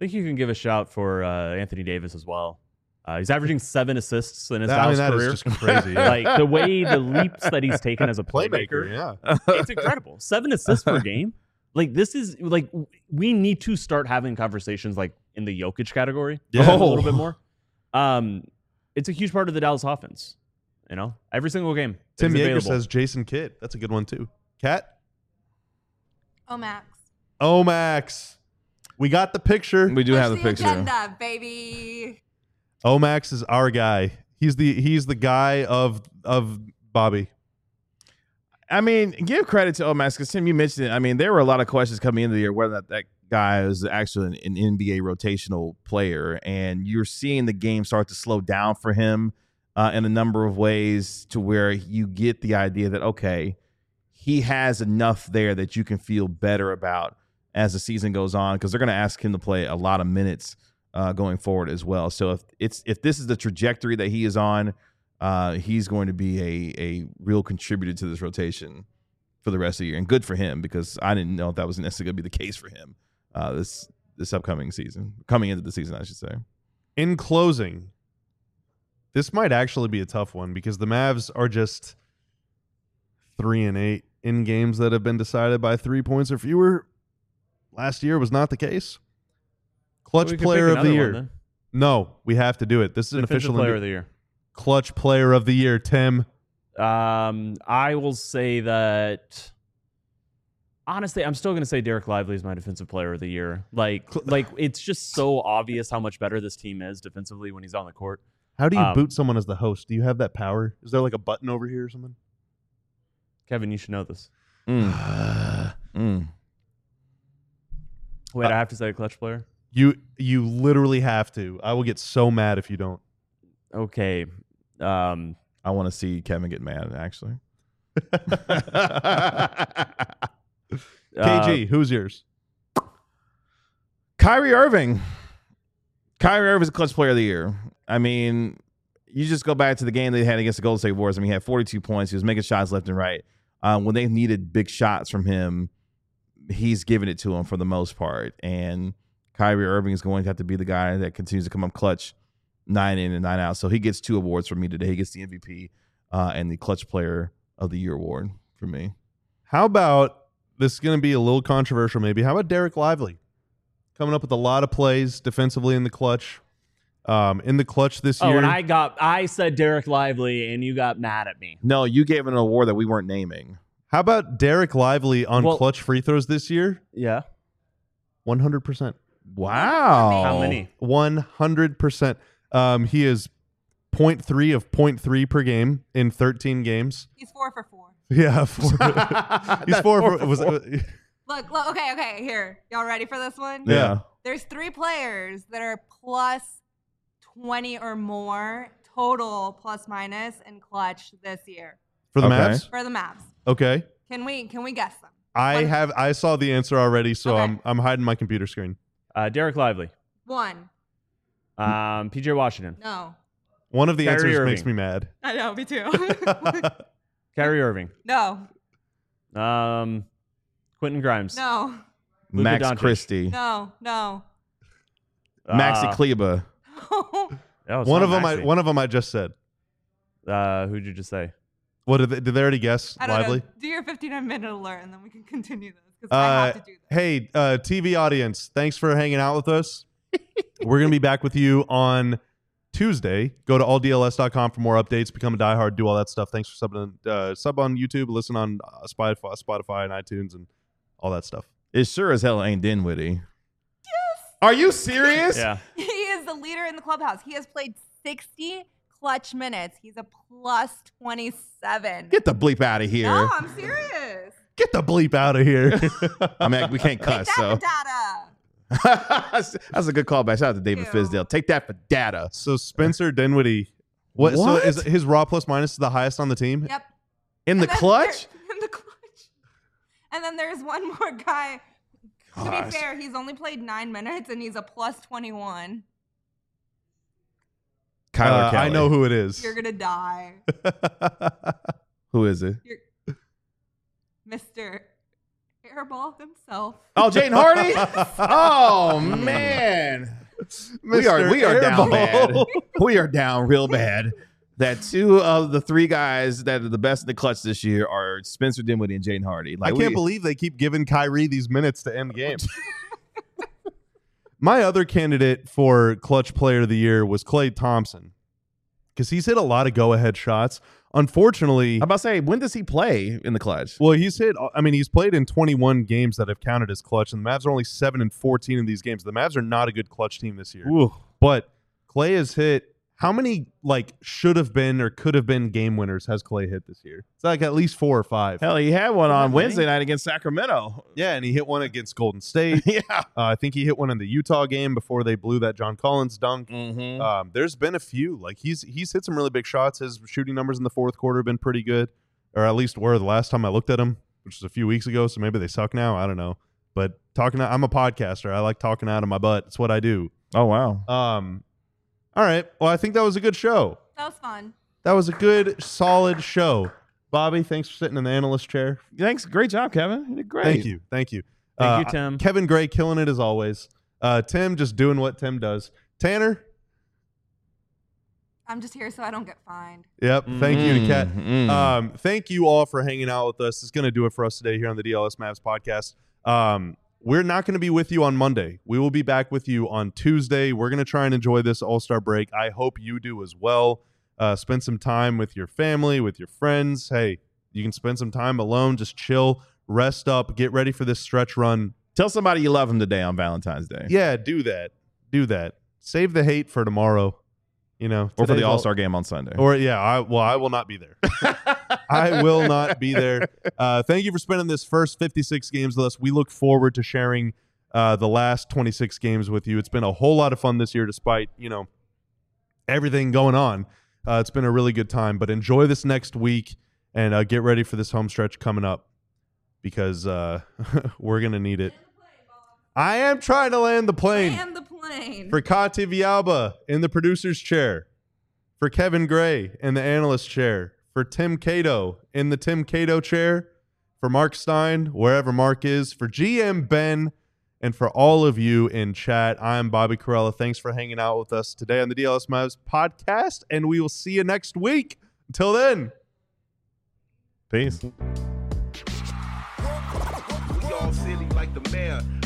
[SPEAKER 2] think you can give a shout for Anthony Davis as well. He's averaging 7 assists in his
[SPEAKER 1] I mean,
[SPEAKER 2] Dallas
[SPEAKER 1] that
[SPEAKER 2] career.
[SPEAKER 1] is just crazy. Yeah.
[SPEAKER 2] Like the leaps that he's taken as a
[SPEAKER 1] Playmaker,
[SPEAKER 2] playmaker,
[SPEAKER 1] yeah.
[SPEAKER 2] it's incredible. 7 assists per game. Like this is like we need to start having conversations like in the Jokic category
[SPEAKER 1] Yeah.
[SPEAKER 2] a little bit more. It's a huge part of the Dallas offense. You know, every single game.
[SPEAKER 1] Tim
[SPEAKER 2] it's
[SPEAKER 1] Yeager
[SPEAKER 2] available.
[SPEAKER 1] says Jason Kidd. That's a good one too. Kat?
[SPEAKER 4] Oh, Max.
[SPEAKER 1] Oh, Max. We got the picture.
[SPEAKER 3] We do have the
[SPEAKER 4] Push
[SPEAKER 3] picture.
[SPEAKER 4] agenda, baby.
[SPEAKER 1] Omax is our guy. He's the guy of Bobby.
[SPEAKER 3] I mean, give credit to Omax because Tim, you mentioned it. I mean, there were a lot of questions coming into the year whether that guy is actually an NBA rotational player, and you're seeing the game start to slow down for him in a number of ways to where you get the idea that okay, he has enough there that you can feel better about as the season goes on because they're going to ask him to play a lot of minutes going forward as well. So if this is the trajectory that he is on, he's going to be a real contributor to this rotation for the rest of the year, and good for him because I didn't know if that was necessarily going to be the case for him this upcoming season, coming into the season, I should say.
[SPEAKER 1] In closing, this might actually be a tough one because the Mavs are just 3-8 in games that have been decided by 3 points or fewer. Last year was not the case. Clutch
[SPEAKER 2] We could
[SPEAKER 1] player
[SPEAKER 2] pick
[SPEAKER 1] of the
[SPEAKER 2] another
[SPEAKER 1] year.
[SPEAKER 2] one, then.
[SPEAKER 1] No, we have to do it. This is an
[SPEAKER 2] Defensive
[SPEAKER 1] official
[SPEAKER 2] player of the year.
[SPEAKER 1] clutch player of the year, Tim.
[SPEAKER 2] I will say that. Honestly, I'm still going to say Derek Lively is my defensive player of the year. Like it's just so obvious how much better this team is defensively when he's on the court.
[SPEAKER 1] How do you boot someone as the host? Do you have that power? Is there like a button over here or something?
[SPEAKER 2] Kevin, you should know this.
[SPEAKER 3] Mm.
[SPEAKER 2] Wait, I have to say a clutch player?
[SPEAKER 1] You literally have to. I will get so mad if you don't.
[SPEAKER 2] Okay.
[SPEAKER 3] I want to see Kevin get mad, actually.
[SPEAKER 1] KG, who's yours?
[SPEAKER 3] Kyrie Irving. Kyrie Irving is a clutch player of the year. I mean, you just go back to the game they had against the Golden State Warriors. I mean, he had 42 points. He was making shots left and right. When they needed big shots from him, he's giving it to them for the most part. And Kyrie Irving is going to have to be the guy that continues to come up clutch 9 in and 9 out. So he gets 2 awards from me today. He gets the MVP and the clutch player of the year award for me.
[SPEAKER 1] How about, this is going to be a little controversial maybe, how about Derek Lively? Coming up with a lot of plays defensively in the clutch. In the clutch this year.
[SPEAKER 2] and I said Derek Lively, and you got mad at me.
[SPEAKER 3] No, you gave an award that we weren't naming.
[SPEAKER 1] How about Derek Lively on
[SPEAKER 2] Well-
[SPEAKER 1] clutch free throws this year?
[SPEAKER 2] Yeah.
[SPEAKER 1] 100%.
[SPEAKER 3] Wow.
[SPEAKER 2] How many?
[SPEAKER 1] 100%. He is 0.3 of 0.3 per game in 13 games.
[SPEAKER 4] He's 4 for 4.
[SPEAKER 1] Yeah, he's 4 for.
[SPEAKER 4] Look, okay. Here, y'all ready for this one?
[SPEAKER 3] Yeah.
[SPEAKER 4] There's 3 players that are plus 20 or more total plus minus in clutch this year
[SPEAKER 1] For the
[SPEAKER 3] Okay.
[SPEAKER 1] Mavs?
[SPEAKER 4] for the Mavs.
[SPEAKER 1] Okay.
[SPEAKER 4] Can we guess them?
[SPEAKER 1] I saw the answer already, so
[SPEAKER 4] Okay.
[SPEAKER 1] I'm hiding my computer screen.
[SPEAKER 2] Derek Lively.
[SPEAKER 4] 1.
[SPEAKER 2] PJ Washington.
[SPEAKER 4] No.
[SPEAKER 1] One of the
[SPEAKER 2] Kyrie
[SPEAKER 1] answers
[SPEAKER 2] Irving.
[SPEAKER 1] makes me mad.
[SPEAKER 4] I know, me too.
[SPEAKER 2] Kyrie Irving.
[SPEAKER 4] No.
[SPEAKER 2] Quentin Grimes.
[SPEAKER 4] No.
[SPEAKER 2] Luka
[SPEAKER 3] Max
[SPEAKER 2] Doncic.
[SPEAKER 3] Christie.
[SPEAKER 4] No.
[SPEAKER 3] Maxi Kleba.
[SPEAKER 1] One of them I just said.
[SPEAKER 2] Who'd you just say?
[SPEAKER 1] What did they already guess?
[SPEAKER 4] I don't
[SPEAKER 1] Lively?
[SPEAKER 4] know. Do your 59-minute alert and then we can continue this because I have to do this.
[SPEAKER 1] Hey, TV audience, thanks for hanging out with us. We're going to be back with you on Tuesday. Go to alldls.com for more updates. Become a diehard. Do all that stuff. Thanks for subbing. Sub on YouTube. Listen on Spotify and iTunes and all that stuff.
[SPEAKER 3] It sure as hell ain't Dinwiddie. Yes. Are you serious?
[SPEAKER 2] Yeah.
[SPEAKER 4] He is the leader in the clubhouse. He has played 60 clutch minutes. He's a plus 27.
[SPEAKER 3] Get the bleep out of here.
[SPEAKER 4] No, I'm serious.
[SPEAKER 1] Get the bleep out of here.
[SPEAKER 3] I mean, we can't cuss,
[SPEAKER 4] Take
[SPEAKER 3] so.
[SPEAKER 4] that for data.
[SPEAKER 3] That's a good callback. Shout out to David
[SPEAKER 4] Ew.
[SPEAKER 3] Fizdale. Take that for data.
[SPEAKER 1] So Spencer Dinwiddie. So
[SPEAKER 3] What?
[SPEAKER 1] is his raw plus minus the highest on the team?
[SPEAKER 4] Yep.
[SPEAKER 3] In the
[SPEAKER 4] And then
[SPEAKER 3] clutch?
[SPEAKER 4] in the clutch. And then there's one more guy. To
[SPEAKER 3] Gosh.
[SPEAKER 4] be fair, he's only played 9 minutes and he's a plus 21.
[SPEAKER 3] Kyler Kelly.
[SPEAKER 1] I know who it is.
[SPEAKER 4] You're gonna die,
[SPEAKER 3] Who is it?
[SPEAKER 4] Mr. airball himself.
[SPEAKER 3] Oh, Jaden Hardy. Oh man, we are down bad. We are down real bad. That 2 of the 3 guys that are the best in the clutch this year are Spencer Dinwiddie and Jaden Hardy.
[SPEAKER 1] I can't believe they keep giving Kyrie these minutes to end games. My other candidate for clutch player of the year was Klay Thompson because he's hit a lot of go-ahead shots. Unfortunately,
[SPEAKER 3] I'm about to say, when does he play in the clutch?
[SPEAKER 1] well, he's played in 21 games that have counted as clutch, and the Mavs are only 7-14 in these games. The Mavs are not a good clutch team this year.
[SPEAKER 3] Ooh.
[SPEAKER 1] But Klay has hit how many should have been or could have been game winners has Klay hit this year? It's like at least 4 or 5.
[SPEAKER 3] Hell, he had one on
[SPEAKER 2] That
[SPEAKER 3] Wednesday
[SPEAKER 2] many?
[SPEAKER 3] night against Sacramento.
[SPEAKER 1] Yeah, and he hit one against Golden State.
[SPEAKER 3] Yeah.
[SPEAKER 1] I think he hit one in the Utah game before they blew that John Collins dunk.
[SPEAKER 3] Mm-hmm.
[SPEAKER 1] There's been a few. Like he's hit some really big shots. His shooting numbers in the fourth quarter have been pretty good, or at least were the last time I looked at him, which was a few weeks ago. So maybe they suck now. I don't know. But I'm a podcaster. I like talking out of my butt. It's what I do.
[SPEAKER 3] Oh wow.
[SPEAKER 1] All right. Well, I think that was a good show.
[SPEAKER 4] That was fun.
[SPEAKER 1] That was a good, solid show. Bobby, thanks for sitting in the analyst chair.
[SPEAKER 3] Thanks. Great job, Kevin. You did great.
[SPEAKER 1] Thank you.
[SPEAKER 2] Thank you, Tim.
[SPEAKER 1] Kevin Gray killing it as always. Tim just doing what Tim does. Tanner?
[SPEAKER 4] I'm just here so I don't get fined.
[SPEAKER 1] Yep. Thank you to Kat.
[SPEAKER 3] Mm.
[SPEAKER 1] Thank you all for hanging out with us. It's going to do it for us today here on the DLS Mavs podcast. We're not going to be with you on Monday. We will be back with you on Tuesday. We're going to try and enjoy this All-Star break. I hope you do as well. Spend some time with your family, with your friends. Hey, you can spend some time alone. Just chill, rest up, get ready for this stretch run.
[SPEAKER 3] Tell somebody you love them today on Valentine's Day.
[SPEAKER 1] Yeah, do that. Do that. Save the hate for tomorrow. You know,
[SPEAKER 3] Or for
[SPEAKER 1] today's
[SPEAKER 3] the All-Star game on Sunday.
[SPEAKER 1] Or yeah, I will not be there. I will not be there. Thank you for spending this first 56 games with us. We look forward to sharing the last 26 games with you. It's been a whole lot of fun this year, despite everything going on. It's been a really good time. But enjoy this next week and get ready for this home stretch coming up because we're gonna need it. I am trying to land the plane.
[SPEAKER 4] And the plane.
[SPEAKER 1] For Kati Vialba in the producer's chair. For Kevin Gray in the analyst chair. For Tim Cato in the Tim Cato chair. For Mark Stein, wherever Mark is. For GM Ben. And for all of you in chat, I'm Bobby Corella. Thanks for hanging out with us today on the DLS Mavs podcast. And we will see you next week. Until then.
[SPEAKER 3] Peace.
[SPEAKER 5] We all silly like the mayor.